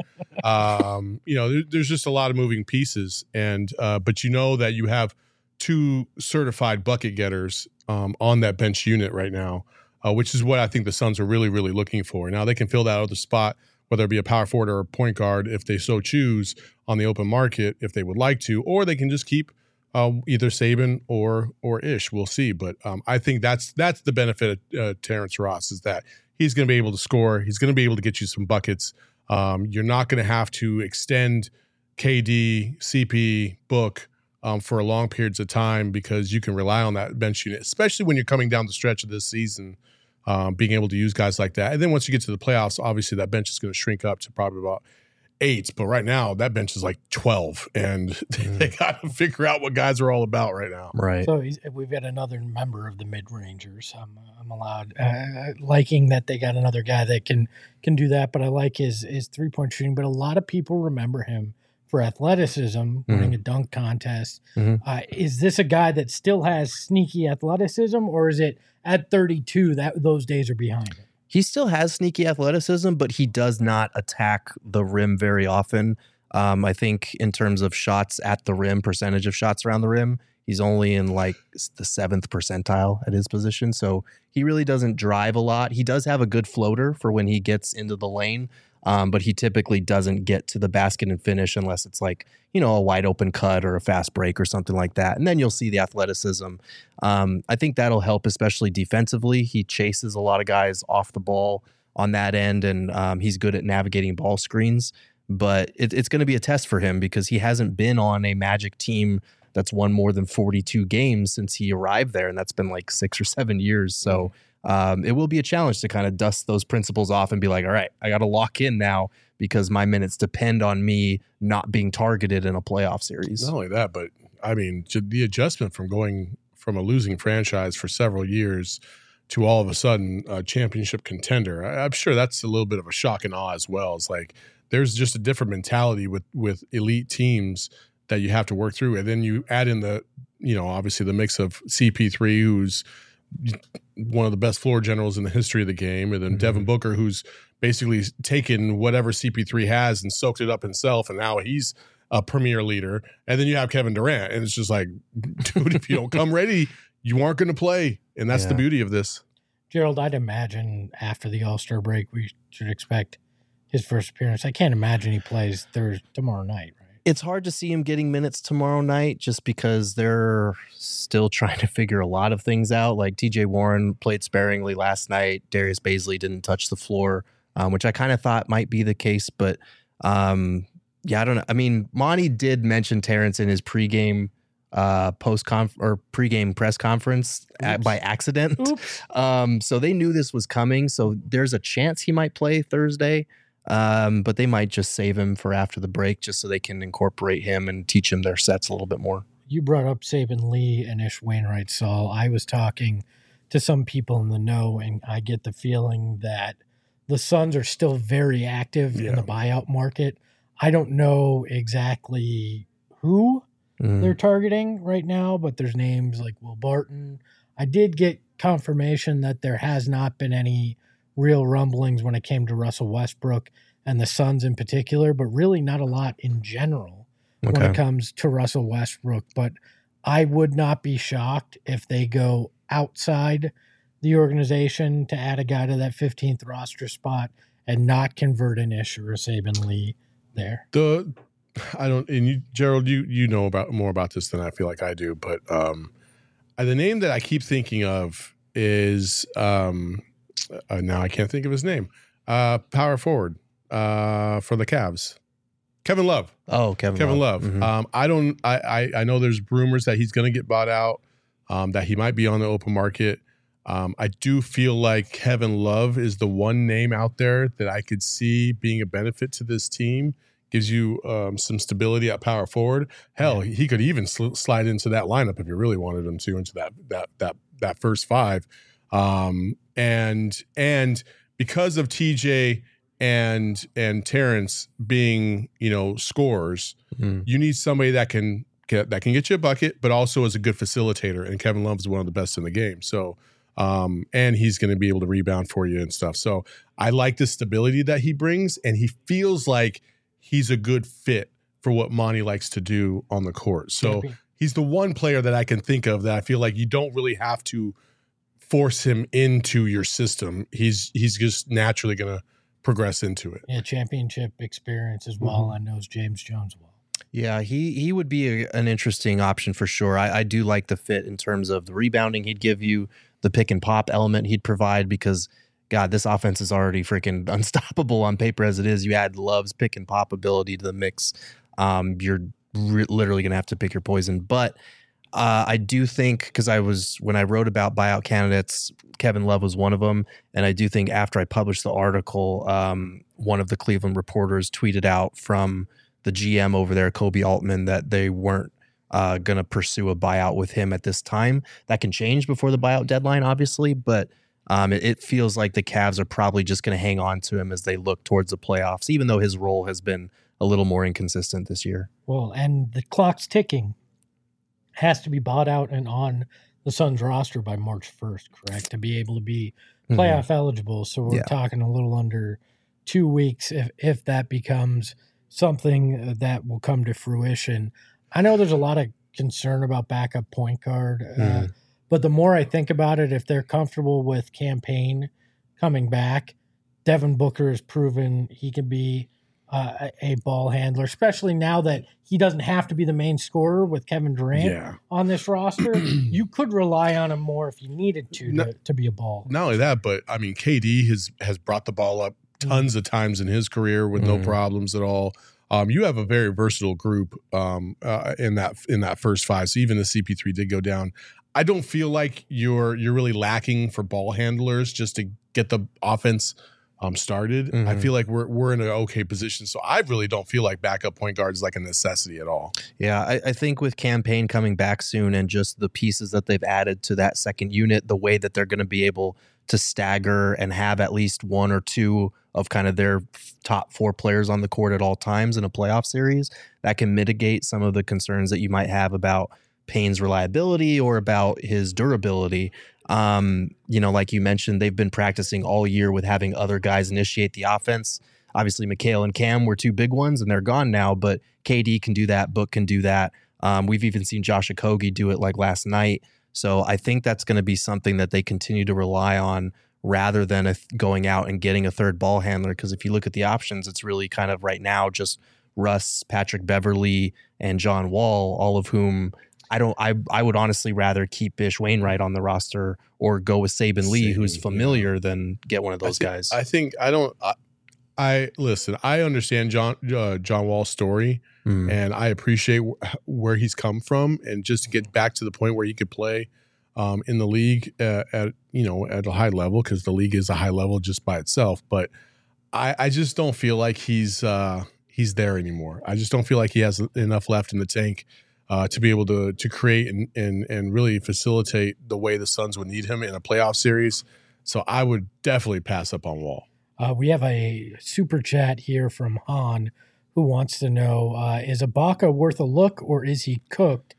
Speaker 2: There's just a lot of moving pieces, and but you know that you have 2 certified bucket getters on that bench unit right now, which is what I think the Suns are really, really looking for. Now they can fill that other spot, whether it be a power forward or a point guard, if they so choose on the open market, if they would like to, or they can just keep either Saban or Ish. We'll see. But I think that's the benefit of Terrence Ross, is that he's going to be able to score. He's going to be able to get you some buckets. You're not going to have to extend KD, CP, Book for long periods of time, because you can rely on that bench unit, especially when you're coming down the stretch of this season. Being able to use guys like that. And then once you get to the playoffs, obviously that bench is going to shrink up to probably about 8. But right now, that bench is like 12. And they got to figure out what guys are all about right now.
Speaker 3: Right.
Speaker 1: So we've got another member of the mid-rangers. I'm allowed, liking that they got another guy that can do that. But I like his three-point shooting. But a lot of people remember him for athleticism, winning a dunk contest. Is this a guy that still has sneaky athleticism, or is it at 32 that those days are behind him?
Speaker 3: He still has sneaky athleticism, but he does not attack the rim very often. I think in terms of shots at the rim, percentage of shots around the rim, he's only in like the 7th percentile at his position. So he really doesn't drive a lot. He does have a good floater for when he gets into the lane. But he typically doesn't get to the basket and finish unless it's like, a wide open cut or a fast break or something like that. And then you'll see the athleticism. I think that'll help, especially defensively. He chases a lot of guys off the ball on that end, and he's good at navigating ball screens. But it's going to be a test for him because he hasn't been on a Magic team that's won more than 42 games since he arrived there, and that's been like 6 or 7 years. So it will be a challenge to kind of dust those principles off and be like, all right, I got to lock in now because my minutes depend on me not being targeted in a playoff series.
Speaker 2: Not only that, but I mean, the adjustment from going from a losing franchise for several years to all of a sudden a championship contender, I'm sure that's a little bit of a shock and awe as well. It's like there's just a different mentality with elite teams that you have to work through. And then you add in the, obviously the mix of CP3, who's one of the best floor generals in the history of the game, and then Devin Booker, who's basically taken whatever CP3 has and soaked it up himself, and now he's a premier leader. And then you have Kevin Durant, and it's just like, dude, if you don't come ready, you aren't going to play, and that's the beauty of this.
Speaker 1: Gerald, I'd imagine after the All-Star break, we should expect his first appearance. I can't imagine he plays tomorrow night, right?
Speaker 3: It's hard to see him getting minutes tomorrow night just because they're still trying to figure a lot of things out. Like TJ Warren played sparingly last night. Darius Baisley didn't touch the floor, which I kind of thought might be the case. But I don't know. I mean, Monty did mention Terrence in his pregame pregame press conference by accident. So they knew this was coming. So there's a chance he might play Thursday. But they might just save him for after the break just so they can incorporate him and teach him their sets a little bit more.
Speaker 1: You brought up Saban Lee and Ish Wainwright, Saul. I was talking to some people in the know, and I get the feeling that the Suns are still very active in the buyout market. I don't know exactly who they're targeting right now, but there's names like Will Barton. I did get confirmation that there has not been any real rumblings when it came to Russell Westbrook and the Suns in particular, but really not a lot in general when it comes to Russell Westbrook. But I would not be shocked if they go outside the organization to add a guy to that 15th roster spot and not convert an Ish or a Saban Lee there.
Speaker 2: Gerald, you know more about this than I feel like I do, but the name that I keep thinking of is now I can't think of his name. Power forward for the Cavs, Kevin Love.
Speaker 3: Oh, Kevin
Speaker 2: Love.
Speaker 3: Mm-hmm.
Speaker 2: I know there's rumors that he's going to get bought out, that he might be on the open market. I do feel like Kevin Love is the one name out there that I could see being a benefit to this team. Gives you some stability at power forward. Hell, he could even slide into that lineup if you really wanted him to, into that first five. And because of TJ and Terrence being, scorers, you need somebody that can get you a bucket, but also is a good facilitator. And Kevin Love is one of the best in the game. So, and he's going to be able to rebound for you and stuff. So I like the stability that he brings, and he feels like he's a good fit for what Monty likes to do on the court. So he's the one player that I can think of that I feel like you don't really have to force him into your system. He's just naturally going to progress into it.
Speaker 1: Yeah, championship experience as well. I knows James Jones well.
Speaker 3: Yeah, he would be an interesting option for sure. I do like the fit in terms of the rebounding he'd give you, the pick and pop element he'd provide, because God, this offense is already freaking unstoppable on paper as it is. You add Love's pick and pop ability to the mix. You're literally going to have to pick your poison. But I do think, because when I wrote about buyout candidates, Kevin Love was one of them. And I do think after I published the article, one of the Cleveland reporters tweeted out from the GM over there, Kobe Altman, that they weren't going to pursue a buyout with him at this time. That can change before the buyout deadline, obviously, but it feels like the Cavs are probably just going to hang on to him as they look towards the playoffs, even though his role has been a little more inconsistent this year.
Speaker 1: Well, and the clock's ticking. Has to be bought out and on the Suns roster by March 1st, correct? To be able to be playoff eligible. So we're talking a little under 2 weeks if that becomes something that will come to fruition. I know there's a lot of concern about backup point guard, but the more I think about it, if they're comfortable with Campaign coming back, Devin Booker has proven he can be a ball handler, especially now that he doesn't have to be the main scorer with Kevin Durant on this roster. You could rely on him more if you needed to be a ball.
Speaker 2: Not only that, but I mean, KD has brought the ball up tons of times in his career with no problems at all. You have a very versatile group in that first five. So even the CP3 did go down. I don't feel like you're really lacking for ball handlers just to get the offense started. I feel like we're in an okay position. So I really don't feel like backup point guard is like a necessity at all.
Speaker 3: Yeah, I think with Campaign coming back soon and just the pieces that they've added to that second unit, the way that they're going to be able to stagger and have at least one or two of kind of their top four players on the court at all times in a playoff series, that can mitigate some of the concerns that you might have about Payne's reliability or about his durability. Like you mentioned, they've been practicing all year with having other guys initiate the offense. Obviously, Mikal and Cam were two big ones, and they're gone now, but KD can do that. Book can do that. We've even seen Josh Okogie do it like last night. So I think that's going to be something that they continue to rely on rather than going out and getting a third ball handler. Because if you look at the options, it's really kind of right now just Russ, Patrick Beverly, and John Wall, all of whom I would honestly rather keep Bish Wainwright on the roster or go with Saban Lee, who's familiar, than get one of those guys.
Speaker 2: I listen, I understand John Wall's story, and I appreciate where he's come from, and just to get back to the point where he could play in the league at a high level, because the league is a high level just by itself. But I just don't feel like he's there anymore. I just don't feel like he has enough left in the tank to be able to create and really facilitate the way the Suns would need him in a playoff series. So I would definitely pass up on Wall.
Speaker 1: We have a super chat here from Han, who wants to know, is Ibaka worth a look, or is he cooked?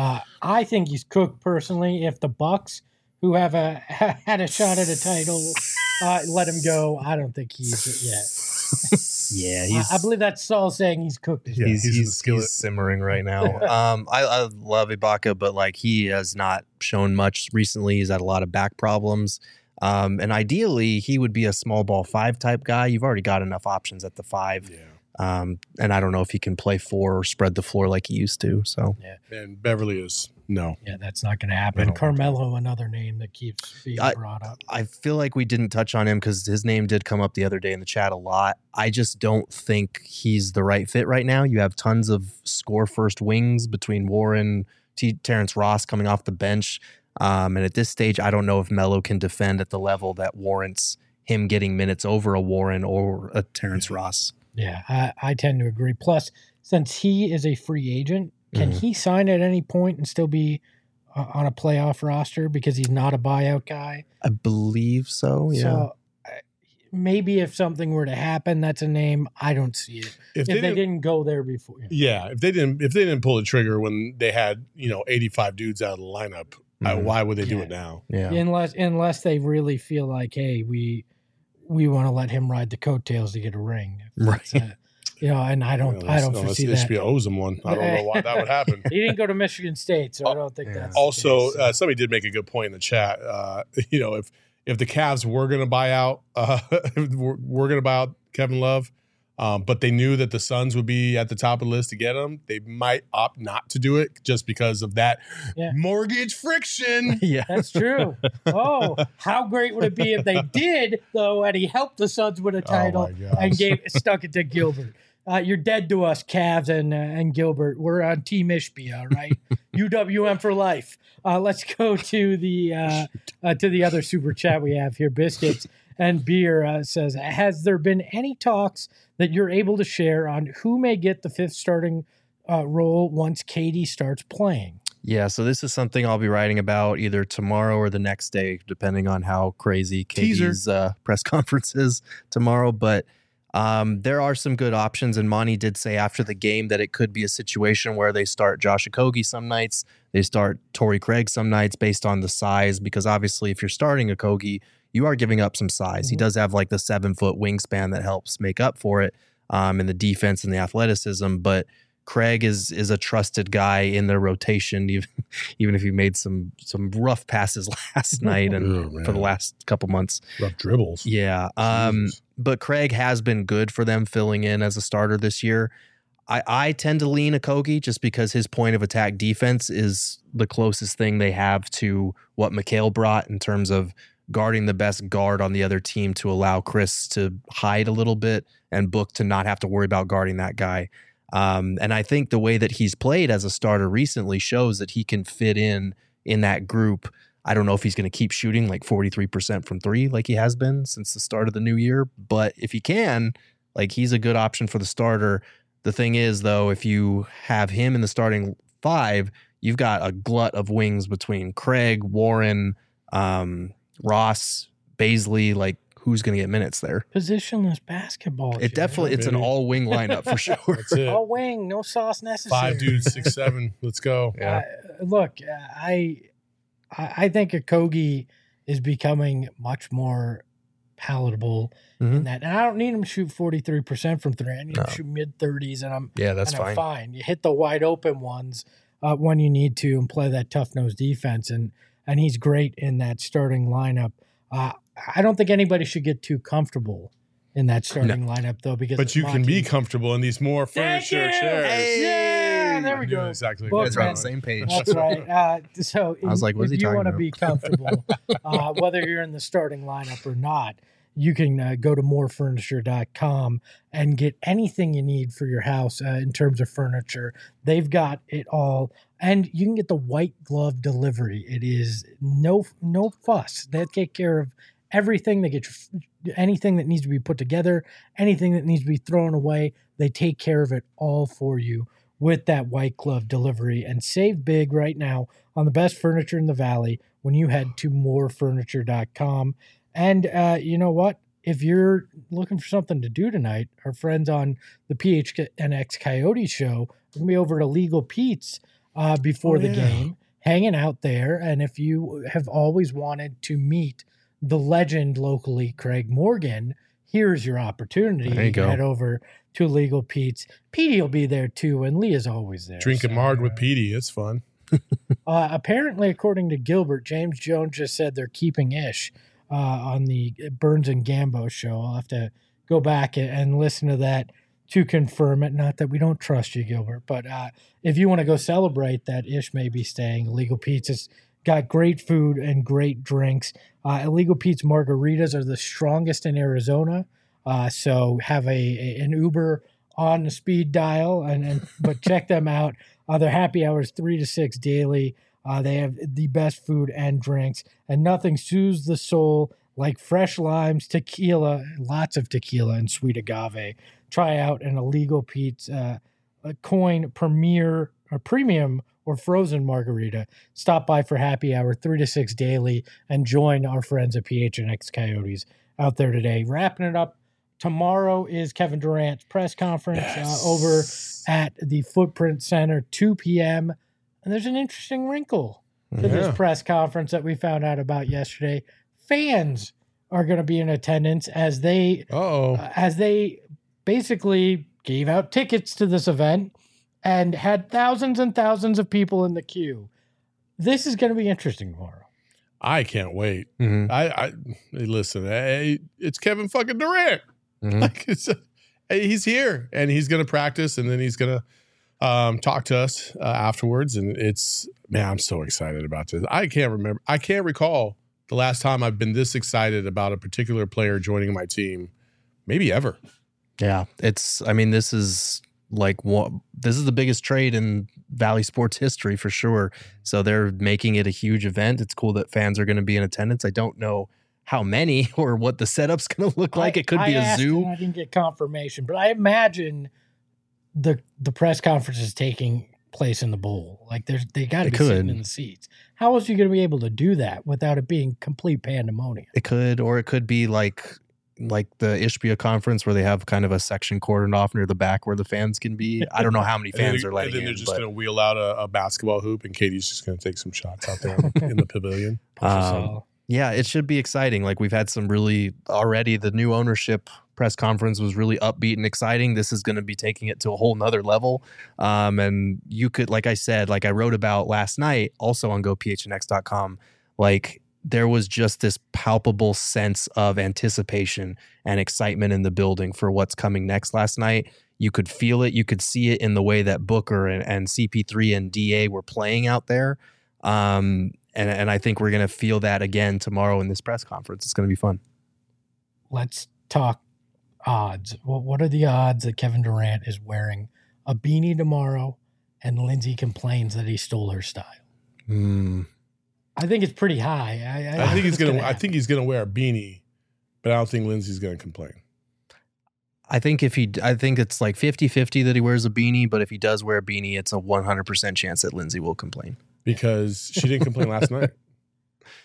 Speaker 1: I think he's cooked personally. If the Bucks, who have had a shot at a title, let him go, I don't think he's yet.
Speaker 3: Yeah,
Speaker 1: I believe that's Saul saying he's cooked.
Speaker 3: Yeah, he's simmering right now. I love Ibaka, but he has not shown much recently. He's had a lot of back problems. And ideally, he would be a small ball 5 type guy. You've already got enough options at the 5. Yeah. And I don't know if he can play 4 or spread the floor like he used to. So
Speaker 2: And Beverly is no.
Speaker 1: Yeah, that's not going to happen. Carmelo, another name that keeps being brought up.
Speaker 3: I feel like we didn't touch on him because his name did come up the other day in the chat a lot. I just don't think he's the right fit right now. You have tons of score first wings between Warren, Terrence Ross coming off the bench. And at this stage, I don't know if Melo can defend at the level that warrants him getting minutes over a Warren or a Terrence Ross.
Speaker 1: Yeah, I tend to agree. Plus, since he is a free agent, can he sign at any point and still be on a playoff roster because he's not a buyout guy?
Speaker 3: I believe so, yeah.
Speaker 1: So maybe if something were to happen, that's a name. I don't see it. If they didn't go there before.
Speaker 2: Yeah, if they didn't pull the trigger when they had 85 dudes out of the lineup, why would they do it now?
Speaker 3: Yeah,
Speaker 1: unless they really feel like, hey, we want to let him ride the coattails to get a ring,
Speaker 3: right?
Speaker 1: And I don't foresee that.
Speaker 2: HBO owes him one. I don't know why that would happen.
Speaker 1: He didn't go to Michigan State, so I don't think that's
Speaker 2: also. Somebody did make a good point in the chat. If the Cavs were going to buy out, Kevin Love. But they knew that the Suns would be at the top of the list to get him. They might opt not to do it just because of that mortgage friction.
Speaker 3: Yeah,
Speaker 1: that's true. Oh, how great would it be if they did, though, and he helped the Suns win a title and stuck it to Gilbert. You're dead to us, Cavs and Gilbert. We're on Team Ishbia, all right? UWM for life. Let's go to the other super chat we have here. Biscuits and Beer says, has there been any talks that you're able to share on who may get the 5th starting role once KD starts playing?
Speaker 3: Yeah, so this is something I'll be writing about either tomorrow or the next day, depending on how crazy KD's press conference is tomorrow. But there are some good options, and Monty did say after the game that it could be a situation where they start Josh Okogie some nights, they start Torrey Craig some nights based on the size, because obviously if you're starting Okogie, you are giving up some size. Mm-hmm. He does have the 7-foot wingspan that helps make up for it, and the defense and the athleticism. But Craig is a trusted guy in their rotation, even if he made some rough passes last night and for the last couple months.
Speaker 2: Rough dribbles.
Speaker 3: Yeah. But Craig has been good for them filling in as a starter this year. I tend to lean Okogie just because his point of attack defense is the closest thing they have to what Mikal brought in terms of guarding the best guard on the other team to allow Chris to hide a little bit and Book to not have to worry about guarding that guy. And I think the way that he's played as a starter recently shows that he can fit in that group. I don't know if he's going to keep shooting 43% from 3 like he has been since the start of the new year, but if he can, he's a good option for the starter. The thing is, though, if you have him in the starting 5, you've got a glut of wings between Craig, Warren, Ross, Baisley. who's going to get minutes there.
Speaker 1: Positionless basketball.
Speaker 3: It definitely, it's an
Speaker 2: Baby.
Speaker 3: all wing lineup for sure.
Speaker 2: That's it.
Speaker 1: all wing, no sauce necessary.
Speaker 2: 5 dudes, 6'7". Let's go.
Speaker 3: Yeah.
Speaker 1: Look, I think Okogie is becoming much more palatable in that. And I don't need him to shoot 43% from three. I need him to shoot mid-30s, and I'm
Speaker 3: that's
Speaker 1: and I'm
Speaker 3: fine.
Speaker 1: fine. You hit the wide open ones when you need to and play that tough-nosed defense, and he's great in that starting lineup. I don't think anybody should get too comfortable in that starting lineup, though, because
Speaker 2: But you can be comfortable in these more furniture chairs.
Speaker 1: Yeah, there we
Speaker 2: You're
Speaker 1: go.
Speaker 2: exactly
Speaker 1: Well,
Speaker 2: what
Speaker 3: Guys are on
Speaker 2: you're
Speaker 3: the
Speaker 2: doing.
Speaker 3: same page.
Speaker 1: That's right. So
Speaker 3: I was like, what is
Speaker 1: if
Speaker 3: he
Speaker 1: you
Speaker 3: talking
Speaker 1: want to
Speaker 3: about?
Speaker 1: be comfortable, whether you're in the starting lineup or not, you can go to morefurniture.com and get anything you need for your house in terms of furniture. They've got it all. And you can get the white glove delivery. It is no fuss. They take care of everything. They get anything that needs to be put together, anything that needs to be thrown away. They take care of it all for you with that white glove delivery. And save big right now on the best furniture in the Valley when you head to morefurniture.com. And you know what? If you're looking for something to do tonight, our friends on the PHNX Coyote show are going to be over to Legal Pete's before the game, hanging out there. And if you have always wanted to meet the legend locally, Craig Morgan, here's your opportunity.
Speaker 3: There you go.
Speaker 1: Head over to Legal Pete's. Petey will be there too, and Leah's always there.
Speaker 2: Drinking marg with Petey. It's fun.
Speaker 1: Apparently, according to Gilbert, James Jones just said they're keeping Ish on the Burns and Gambo show. I'll have to go back and listen to that to confirm it. Not that we don't trust you, Gilbert, but if you want to go celebrate that, Ish may be staying. Legal Pete's has got great food and great drinks. Illegal Pete's margaritas are the strongest in Arizona. So have an Uber on the speed dial, but check them out. Their happy hours 3 to 6 daily. They have the best food and drinks, and nothing soothes the soul like fresh limes, tequila, lots of tequila, and sweet agave. Try out an Illegal Pete's Coin Premium or frozen margarita. Stop by for happy hour 3 to 6 daily and join our friends at PHNX Coyotes out there today. Wrapping it up, tomorrow is Kevin Durant's press conference over at the Footprint Center, 2 p.m. And there's an interesting wrinkle to this press conference that we found out about yesterday. Fans are going to be in attendance as they basically gave out tickets to this event and had thousands and thousands of people in the queue. This is going to be interesting tomorrow.
Speaker 2: I can't wait.
Speaker 3: Mm-hmm.
Speaker 2: I listen. It's Kevin fucking Durant.
Speaker 3: Mm-hmm.
Speaker 2: Like he's here and he's gonna practice and then he's gonna talk to us afterwards. And I'm so excited about this. I can't recall the last time I've been this excited about a particular player joining my team, maybe ever.
Speaker 3: Yeah, this is the biggest trade in Valley sports history for sure. So they're making it a huge event. It's cool that fans are going to be in attendance. I don't know how many or what the setup's going to look like. It could be a zoo.
Speaker 1: I didn't get confirmation, but I imagine the press conference is taking place in the bowl. Like they got to be sitting in the seats. How else are you going to be able to do that without it being complete pandemonium?
Speaker 3: It could be like the Ishbia conference where they have kind of a section cordoned off near the back where the fans can be. I don't know how many fans are letting in.
Speaker 2: And then they're just going to wheel out a basketball hoop and Katie's just going to take some shots out there in the pavilion.
Speaker 3: Yeah, it should be exciting. Like we've had some already the new ownership press conference was really upbeat and exciting. This is going to be taking it to a whole nother level. And you could, like I said, like I wrote about last night also on gophnx.com, like there was just this palpable sense of anticipation and excitement in the building for what's coming next last night. You could feel it. You could see it in the way that Booker and CP3 and DA were playing out there. And I think we're going to feel that again tomorrow in this press conference. It's going to be fun.
Speaker 1: Let's talk odds. Well, what are the odds that Kevin Durant is wearing a beanie tomorrow and Lindsay complains that he stole her style? I think it's pretty high.
Speaker 2: I think he's gonna wear a beanie, but I don't think Lindsay's gonna complain.
Speaker 3: I think it's like 50-50 that he wears a beanie, but if he does wear a beanie, it's a 100% chance that Lindsay will complain.
Speaker 2: Because she didn't complain last night.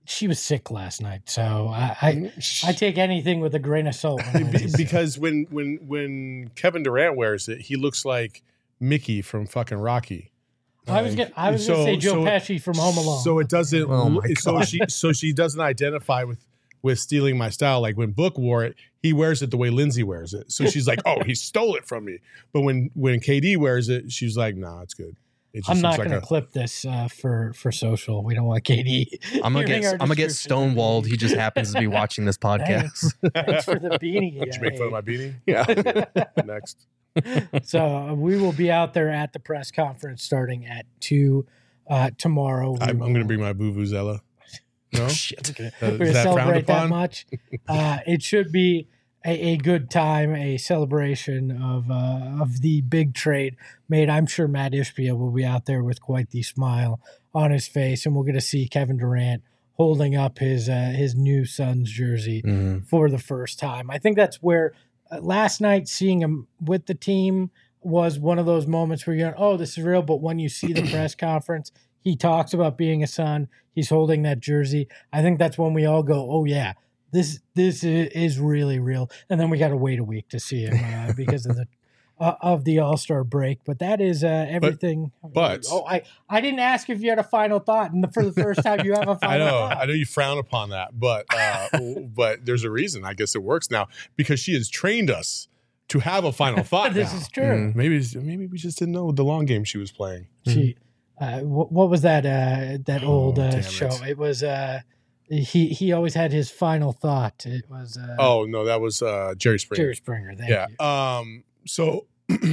Speaker 1: she was sick last night, so I take anything with a grain of salt.
Speaker 2: Because when Kevin Durant wears it, he looks like Mickey from fucking Rocky.
Speaker 1: I was gonna say Joe Pesci from Home Alone.
Speaker 2: So it doesn't. So she doesn't identify with stealing my style. Like when Book wore it, he wears it the way Lindsay wears it. So she's like, "Oh, he stole it from me." But when KD wears it, she's like, "Nah, it's good."
Speaker 1: I'm not going to clip this for social. We don't want KD.
Speaker 3: I'm gonna get stonewalled. He just happens to be watching this podcast.
Speaker 1: Thanks for the beanie.
Speaker 2: Did you make fun of my beanie?
Speaker 3: Yeah.
Speaker 2: Okay. Next.
Speaker 1: So we will be out there at the press conference starting at 2 tomorrow.
Speaker 2: I'm going to bring my vuvuzela. No?
Speaker 3: Shit.
Speaker 1: We're going to celebrate that much. It should be a good time, a celebration of the big trade made. I'm sure Matt Ishbia will be out there with quite the smile on his face, and we're going to see Kevin Durant holding up his new Suns jersey for the first time. I think that's where last night seeing him with the team was one of those moments where you're going, oh, this is real. But when you see the press conference, he talks about being a Sun. He's holding that jersey. I think that's when we all go, oh, yeah. This is really real, and then we got to wait a week to see him because of the All-Star break. But that is everything. I didn't ask if you had a final thought, and for the first time, you have a final thought.
Speaker 2: I know you frown upon that, but there's a reason. I guess it works now because she has trained us to have a final thought.
Speaker 1: This is true.
Speaker 2: Maybe we just didn't know the long game she was playing.
Speaker 1: She, what was that old show? It was. He always had his final thought. It was
Speaker 2: that was Jerry Springer.
Speaker 1: Jerry Springer, thank you.
Speaker 2: So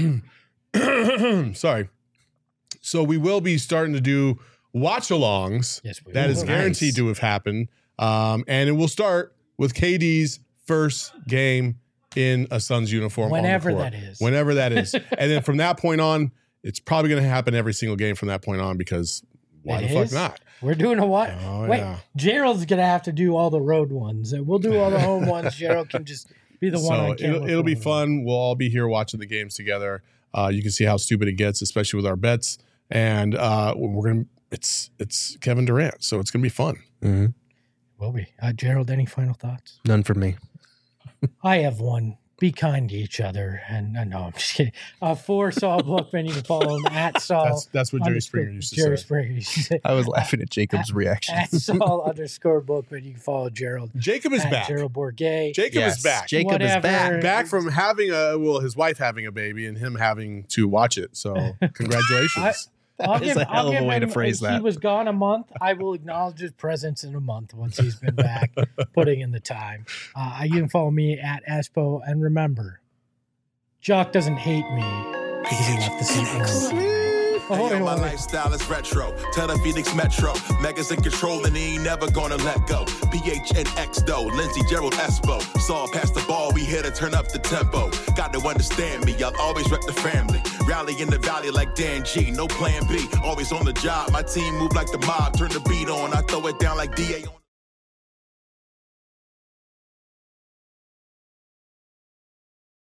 Speaker 2: sorry. So we will be starting to do watch-alongs.
Speaker 1: Yes, we
Speaker 2: that
Speaker 1: will.
Speaker 2: is guaranteed to have happened. And it will start with KD's first game in a Suns uniform.
Speaker 1: Whenever that is.
Speaker 2: Whenever that is. And then from that point on, it's probably going to happen every single game from that point on because why the fuck not?
Speaker 1: We're doing a what?
Speaker 2: Oh,
Speaker 1: Wait,
Speaker 2: yeah.
Speaker 1: Gerald's going to have to do all the road ones. We'll do all the home ones. Gerald can just be the one on camera.
Speaker 2: It'll be fun. We'll all be here watching the games together. You can see how stupid it gets, especially with our bets. And it's Kevin Durant, so it's going to be fun.
Speaker 3: Mm-hmm.
Speaker 1: Will be. Gerald, any final thoughts?
Speaker 3: None for me.
Speaker 1: I have one. Be kind to each other. And no, I'm just kidding. For Saul Bookman, you can follow him at Saul.
Speaker 2: That's what Jerry Springer used to say.
Speaker 1: Jerry Springer used to say.
Speaker 3: I was laughing at Jacob's reaction.
Speaker 1: At Saul_Bookman, you can follow Gerald.
Speaker 2: Jacob is back.
Speaker 1: Gerald Bourget.
Speaker 2: Jacob is back.
Speaker 3: Jacob is back.
Speaker 2: Back from having his wife having a baby and him having to watch it. So congratulations.
Speaker 3: That is a hell of a way to phrase that.
Speaker 1: He was gone a month. I will acknowledge his presence in a month once he's been back, putting in the time. You can follow me at Espo. And remember, Jock doesn't hate me because he left the seat.
Speaker 7: Hey, yo, my lifestyle is retro. Tell the Phoenix Metro. Megas in control and he ain't never gonna let go. PHNX though, Lindsay, Gerald, Espo. Saw past the ball, we here to turn up the tempo. Got to understand me, I'll always rep the family. Rally in the valley like Dan G, no plan B. Always on the job, my team move like the mob. Turn the beat on, I throw it down like DA on